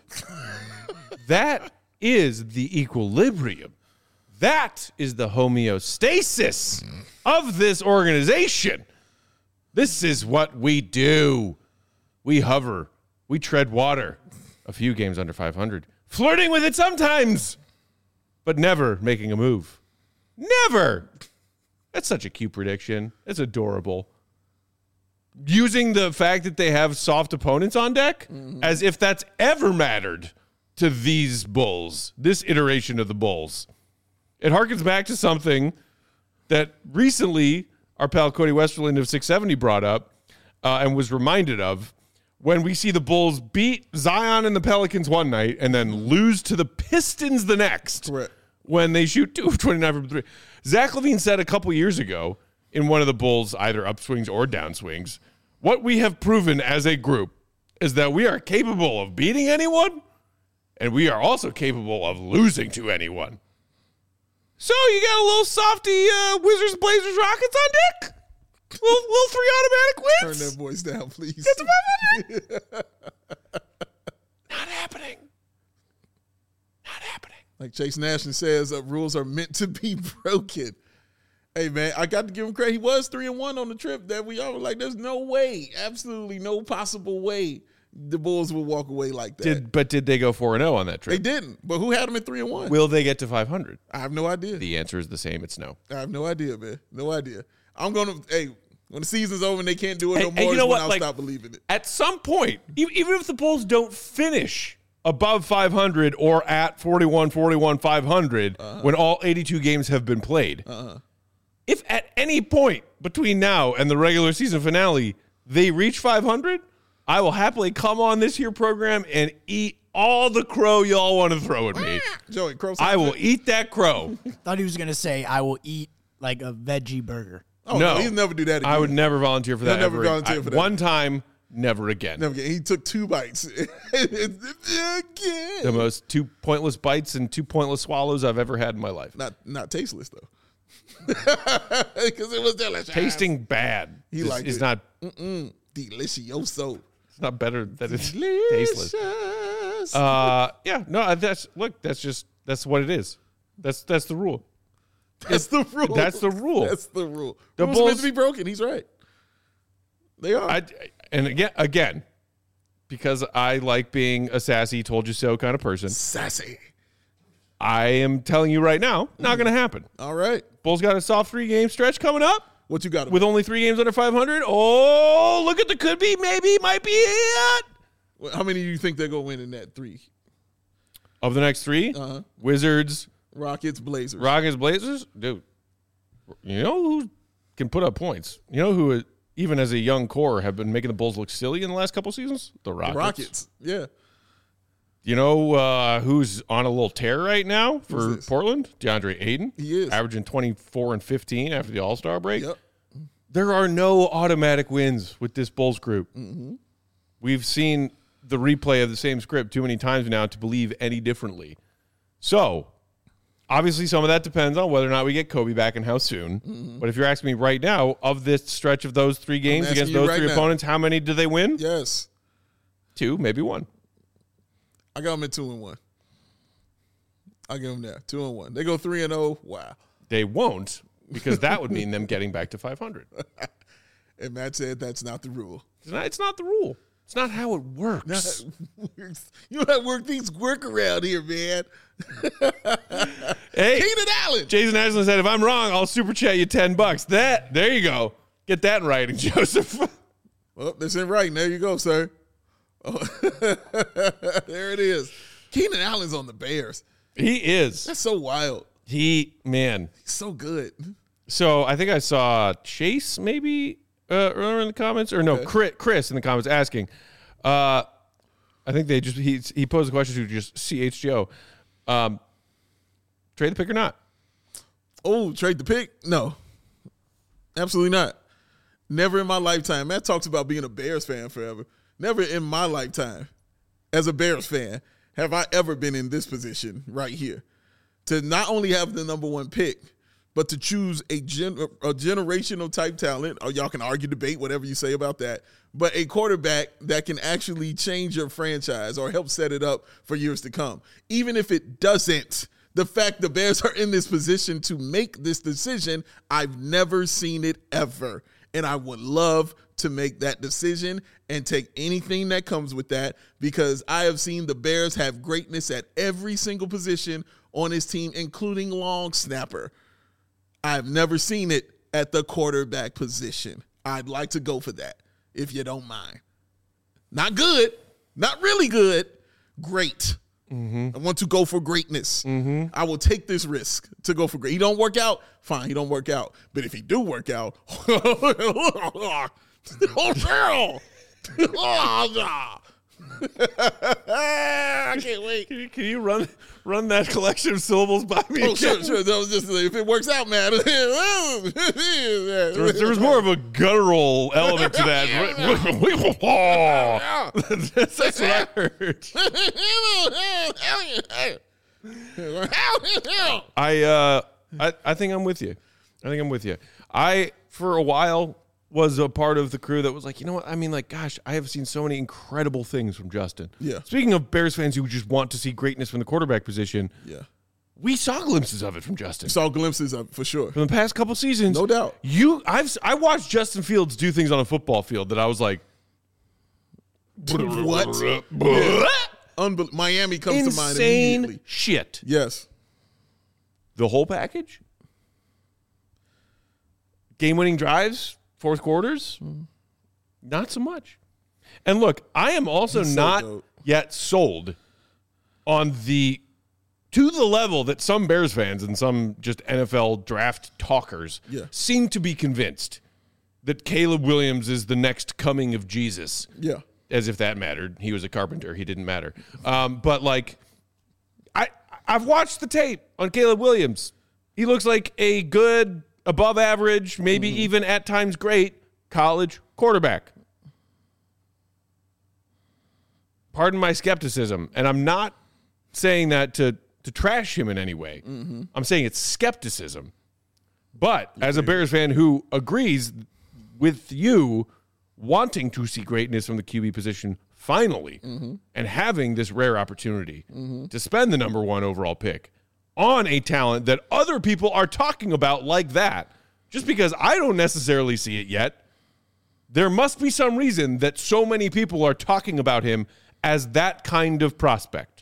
That is the equilibrium. That is the homeostasis of this organization. This is what we do. We hover. We tread water. A few games under five hundred. Flirting with it sometimes, but never making a move. Never. That's such a cute prediction. It's adorable. Using the fact that they have soft opponents on deck as if that's ever mattered to these Bulls, this iteration of the Bulls. It harkens back to something that recently our pal Cody Westerland of six seventy brought up uh, and was reminded of when we see the Bulls beat Zion and the Pelicans one night and then lose to the Pistons the next. Correct. When they shoot two of twenty-nine from three. Zach Levine said a couple years ago in one of the Bulls' either upswings or downswings, what we have proven as a group is that we are capable of beating anyone, and we are also capable of losing to anyone. So you got a little softy uh, Wizards, Blazers, Rockets on deck? Little, little three automatic Turn wins? that voice down, please. Get to five hundred? Not happening. Not happening. Like Chase Nash says, uh, rules are meant to be broken. Hey man, I got to give him credit. He was three and one on the trip that we all were like, there's no way, absolutely no possible way the Bulls will walk away like that. Did but did they go four and zero on that They trip? didn't. But who had them at three and one? Will they get to five hundred? I have no idea. The answer is the same. It's no. I have no idea, man. No idea. I'm gonna. Hey, when the season's over and they can't do it Hey, no and more, you is know when what? I'll Like, stop believing it. At some point, e- even if the Bulls don't finish above five hundred or at forty-one, forty-one, five hundred, uh-huh. when all eighty-two games have been played, uh-huh. if at any point between now and the regular season finale they reach five hundred, I will happily come on this here program and eat all the crow y'all want to throw at me. Joey, crow. I will eat that crow. Thought he was gonna say I will eat like a veggie burger. Oh, no, no, he'll never do that again. I would never volunteer for that. He'll never ever. volunteer I- for that. One time, never again. Never again. He took two bites. Again. The most two pointless bites and two pointless swallows I've ever had in my life. Not not tasteless though, because it was delicious. Tasting bad. He is, liked is it. not. Mm-mm. Delicioso. It's not better than it's Delicious. tasteless. Uh, yeah, no, that's look. That's just that's what it is. That's that's the rule. That's the rule. That's the rule. That's the rule. The Rules meant Bulls- to be broken. He's right. They are. I, and again, again, because I like being a sassy, told you so kind of person. Sassy. I am telling you right now, not going to happen. All right. Bulls got a soft three game stretch coming up. What you got? With only three games under five hundred. Oh, look at the could be, maybe, might be it. How many do you think they're going to win in that three? Of the next three, Uh-huh. Wizards, Rockets, Blazers. Rockets, Blazers. Dude, you know who can put up points? You know who, even as a young core, have been making the Bulls look silly in the last couple seasons? The Rockets. The Rockets. Yeah. You know uh, who's on a little tear right now for Who's this? Portland? DeAndre Ayton. He is. Averaging twenty-four and fifteen after the All-Star break. Yep. There are no automatic wins with this Bulls group. Mm-hmm. We've seen the replay of the same script too many times now to believe any differently. So, obviously, some of that depends on whether or not we get Kobe back and how soon. Mm-hmm. But if you're asking me right now, of this stretch of those three games asking against you those right three now. opponents, how many do they win? Yes. Two, maybe one. I got them at two and one. I give them that. Two and one. They go three and oh. Wow. They won't, because that would mean them getting back to five hundred. And Matt said that's not the rule. It's not, it's not the rule. It's not how it works. You know how to work things work around here, man. Hey, Keenan Allen. Jason Ashland said, if I'm wrong, I'll super chat you ten bucks. That, there you go. Get that in writing, Joseph. Well, that's in writing. There you go, sir. Oh. There it is. Keenan Allen's on the Bears. He is. That's so wild. He, man. He's so good. So I think I saw Chase maybe uh, earlier in the comments, or no, Okay. Chris, Chris in the comments asking. Uh, I think they just he he posed a question to just C H G O. Um, trade the pick or not? Oh, trade the pick? No. Absolutely not. Never in my lifetime. Matt talks about being a Bears fan forever. Never in my lifetime, as a Bears fan, have I ever been in this position right here. To not only have the number one pick, but to choose a, gen- a generational type talent, or y'all can argue, debate, whatever you say about that, but a quarterback that can actually change your franchise or help set it up for years to come. Even if it doesn't, the fact the Bears are in this position to make this decision, I've never seen it ever. And I would love to make that decision and take anything that comes with that, because I have seen the Bears have greatness at every single position on his team, including long snapper. I've never seen it at the quarterback position. I'd like to go for that, if you don't mind. Not good, not really good, great. Mm-hmm. I want to go for greatness. Mm-hmm. I will take this risk to go for great. He don't work out, fine, he don't work out. But if he do work out, oh, hell. I can't wait. Can you, can you run run that collection of syllables by me? Oh, again? sure, sure. That was just if it works out, man. There was, there was more of a guttural element to that. that's, that's what I heard. I uh, I I think I'm with you. I think I'm with you. I for a while was a part of the crew that was like, you know what? I mean, like, gosh, I have seen so many incredible things from Justin. Yeah. Speaking of Bears fans who just want to see greatness from the quarterback position, Yeah. we saw glimpses of it from Justin. Saw glimpses of it for sure. From the past couple seasons. No doubt. You, I've, I watched Justin Fields do things on a football field that I was like, what? Yeah. Unbel- Miami comes to mind immediately. Insane shit. Yes. The whole package? Game-winning drives, fourth quarters? Not so much. And look, I am also He's so not dope. yet sold on the to the level that some Bears fans and some just N F L draft talkers Yeah. seem to be convinced that Caleb Williams is the next coming of Jesus. Yeah. As if that mattered. He was a carpenter. He didn't matter. Um, but like, I I've watched the tape on Caleb Williams. He looks like a good, above average, maybe Mm-hmm. even at times great college quarterback. Pardon my skepticism, and I'm not saying that to to trash him in any way. Mm-hmm. I'm saying it's skepticism. But as a Bears fan who agrees with you wanting to see greatness from the Q B position finally Mm-hmm. and having this rare opportunity to spend the number one overall pick on a talent that other people are talking about like that, just because I don't necessarily see it yet, there must be some reason that so many people are talking about him as that kind of prospect.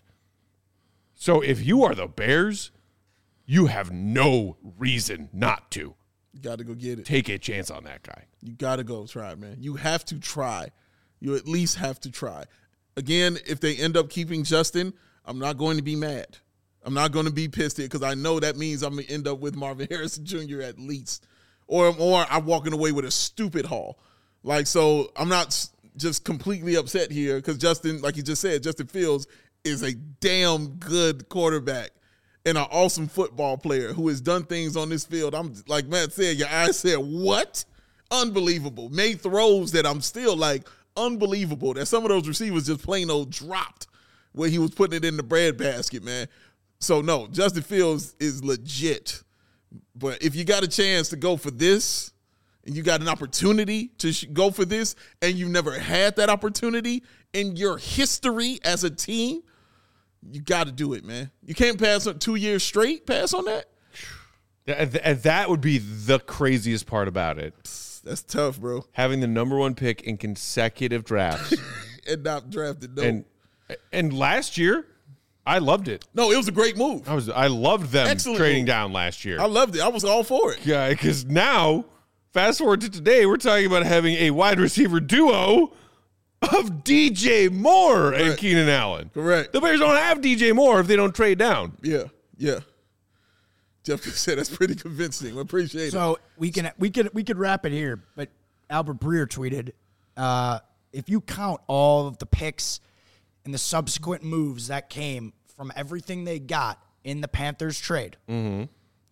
So if you are the Bears, you have no reason not to You got to go get it. take a chance on that guy. You got to go try, man. You have to try. You at least have to try. Again, if they end up keeping Justin, I'm not going to be mad. I'm not going to be pissed here because I know that means I'm going to end up with Marvin Harrison Junior at least. Or, or I'm walking away with a stupid haul. Like, so I'm not s- just completely upset here because Justin, like you just said, Justin Fields is a damn good quarterback and an awesome football player who has done things on this field. I'm like Matt said, your eyes said, what? Unbelievable. Made throws that I'm still like, unbelievable. That some of those receivers just plain old dropped where he was putting it in the bread basket, man. So, no, Justin Fields is legit. But if you got a chance to go for this, and you got an opportunity to sh- go for this, and you've never had that opportunity in your history as a team, you got to do it, man. You can't pass on two years straight, pass on that. And th- and that would be the craziest part about it. That's tough, bro. Having the number one pick in consecutive drafts. And not drafted, no. and and last year, I loved it. no, it was a great move. I was I loved them Excellent trading move. down last year. I loved it. I was all for it. Yeah, because now, fast forward to today, we're talking about having a wide receiver duo of D J Moore and Correct. Keenan Allen. Correct. The Bears don't have D J Moore if they don't trade down. Yeah, yeah. Jeff said that's pretty convincing. I appreciate it. So we can we could we could wrap it here, but Albert Breer tweeted, uh, if you count all of the picks and the subsequent moves that came from everything they got in the Panthers trade, the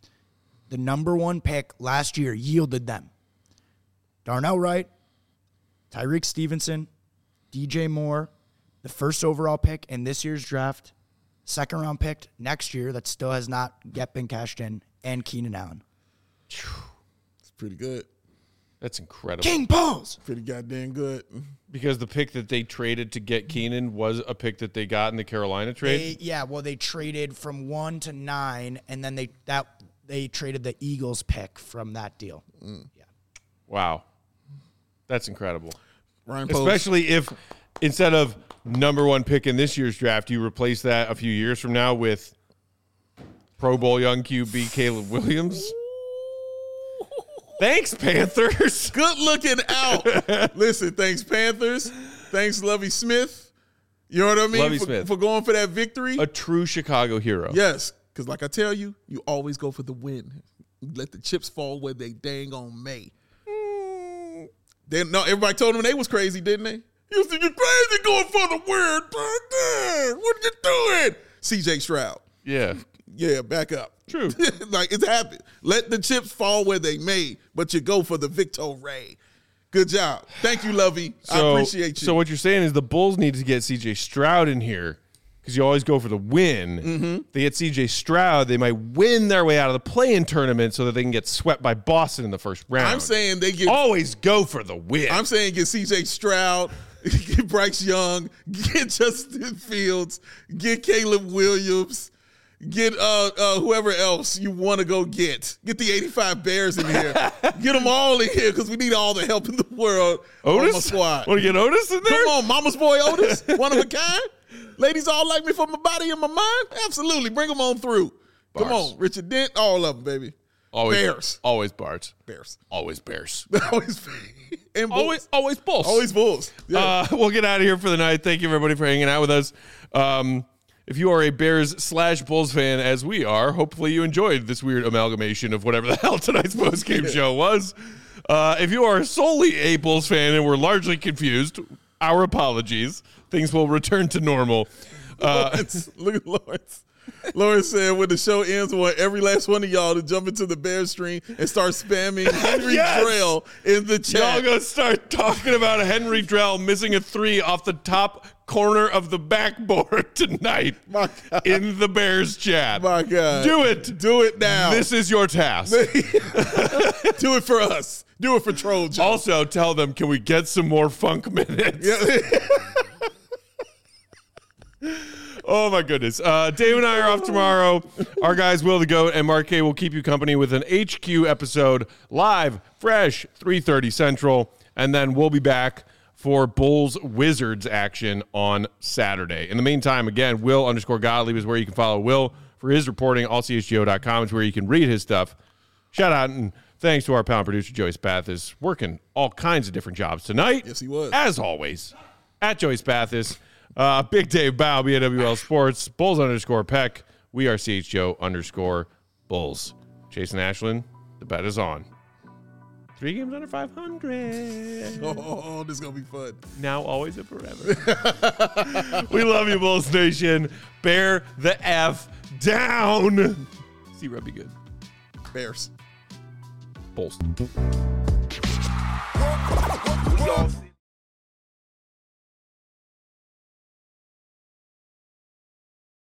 number one pick last year yielded them Darnell Wright, Tyreek Stevenson, D J Moore, the first overall pick in this year's draft, second round pick next year that still has not yet been cashed in, and Keenan Allen. It's pretty good. That's incredible. King Pauls. Pretty goddamn good. Because the pick that they traded to get Keenan was a pick that they got in the Carolina trade. They, yeah, well, they traded from one to nine, and then they that they traded the Eagles pick from that deal. Yeah, Wow. That's incredible. Ryan Post. Especially if instead of number one pick in this year's draft, you replace that a few years from now with Pro Bowl young Q B Caleb Williams. Thanks, Panthers. Good looking out. Listen, thanks, Panthers. Thanks, Lovie Smith. You know what I mean? Lovie for, Smith. for going for that victory. A true Chicago hero. Yes, because like I tell you, you always go for the win. You let the chips fall where they dang on may. They, no, everybody told them they was crazy, didn't they? You said you're crazy going for the win. What are you doing? C J Stroud. Yeah. Yeah, back up. True. Like, it's happened. Let the chips fall where they may, but you go for the victory. Good job. Thank you, Lovey. I So, appreciate you. So what you're saying is the Bulls need to get C J Stroud in here because you always go for the win. Mm-hmm. If they get C J Stroud, they might win their way out of the play-in tournament so that they can get swept by Boston in the first round. I'm saying they get always go for the win. I'm saying get C J Stroud, get Bryce Young, get Justin Fields, get Caleb Williams, Get uh, uh, whoever else you want to go get. Get the eighty-five Bears in here. Get them all in here because we need all the help in the world Otis? on my squad. Want to get Otis in there? Come on, mama's boy Otis. One of a kind. Ladies all like me for my body and my mind. Absolutely. Bring them on through. Come Bars. on. Richard Dent. All of them, baby. Always Bears. Always Bards. Bears. Always Bears. Always. And Bulls. Always, always Bulls. Always Bulls. Yeah. Uh, we'll get out of here for the night. Thank you, everybody, for hanging out with us. Um, if you are a Bears slash Bulls fan, as we are, hopefully you enjoyed this weird amalgamation of whatever the hell tonight's postgame show was. Uh, if you are solely a Bulls fan and were largely confused, our apologies. Things will return to normal. Uh, Lawrence, look at Lawrence. Lawrence said when the show ends, I want every last one of y'all to jump into the Bears stream and start spamming Henry Yes! Drell in the Y'all chat. gonna start talking about Henry Drell missing a three off the top corner of the backboard tonight My God. in the Bears chat. My God. Do it. Do it now. This is your task. Do it for us. Do it for Troll Joe. Also, tell them, can we get some more funk minutes? Yeah. Oh, my goodness. Uh, Dave and I are off tomorrow. Our guys, Will the Goat and Mark K, will keep you company with an H Q episode live, fresh, three thirty Central. And then we'll be back for Bulls Wizards action on Saturday. In the meantime, again, Will underscore Gottlieb is where you can follow Will for his reporting. all c h g o dot com is where you can read his stuff. Shout out and thanks to our panel producer, Joey Spathis, working all kinds of different jobs tonight. Yes, he was. As always, at Joey Spathis. Uh, Big Dave Bow, B A W L Sports, Bulls underscore Peck. We are C H G O underscore Bulls. Jason Ashland, the bet is on. Three games under five hundred. Oh, this is going to be fun. Now, always, and forever. We love you, Bulls Nation. Bear the F down. See, Rub be good. Bears. Bulls. We all see.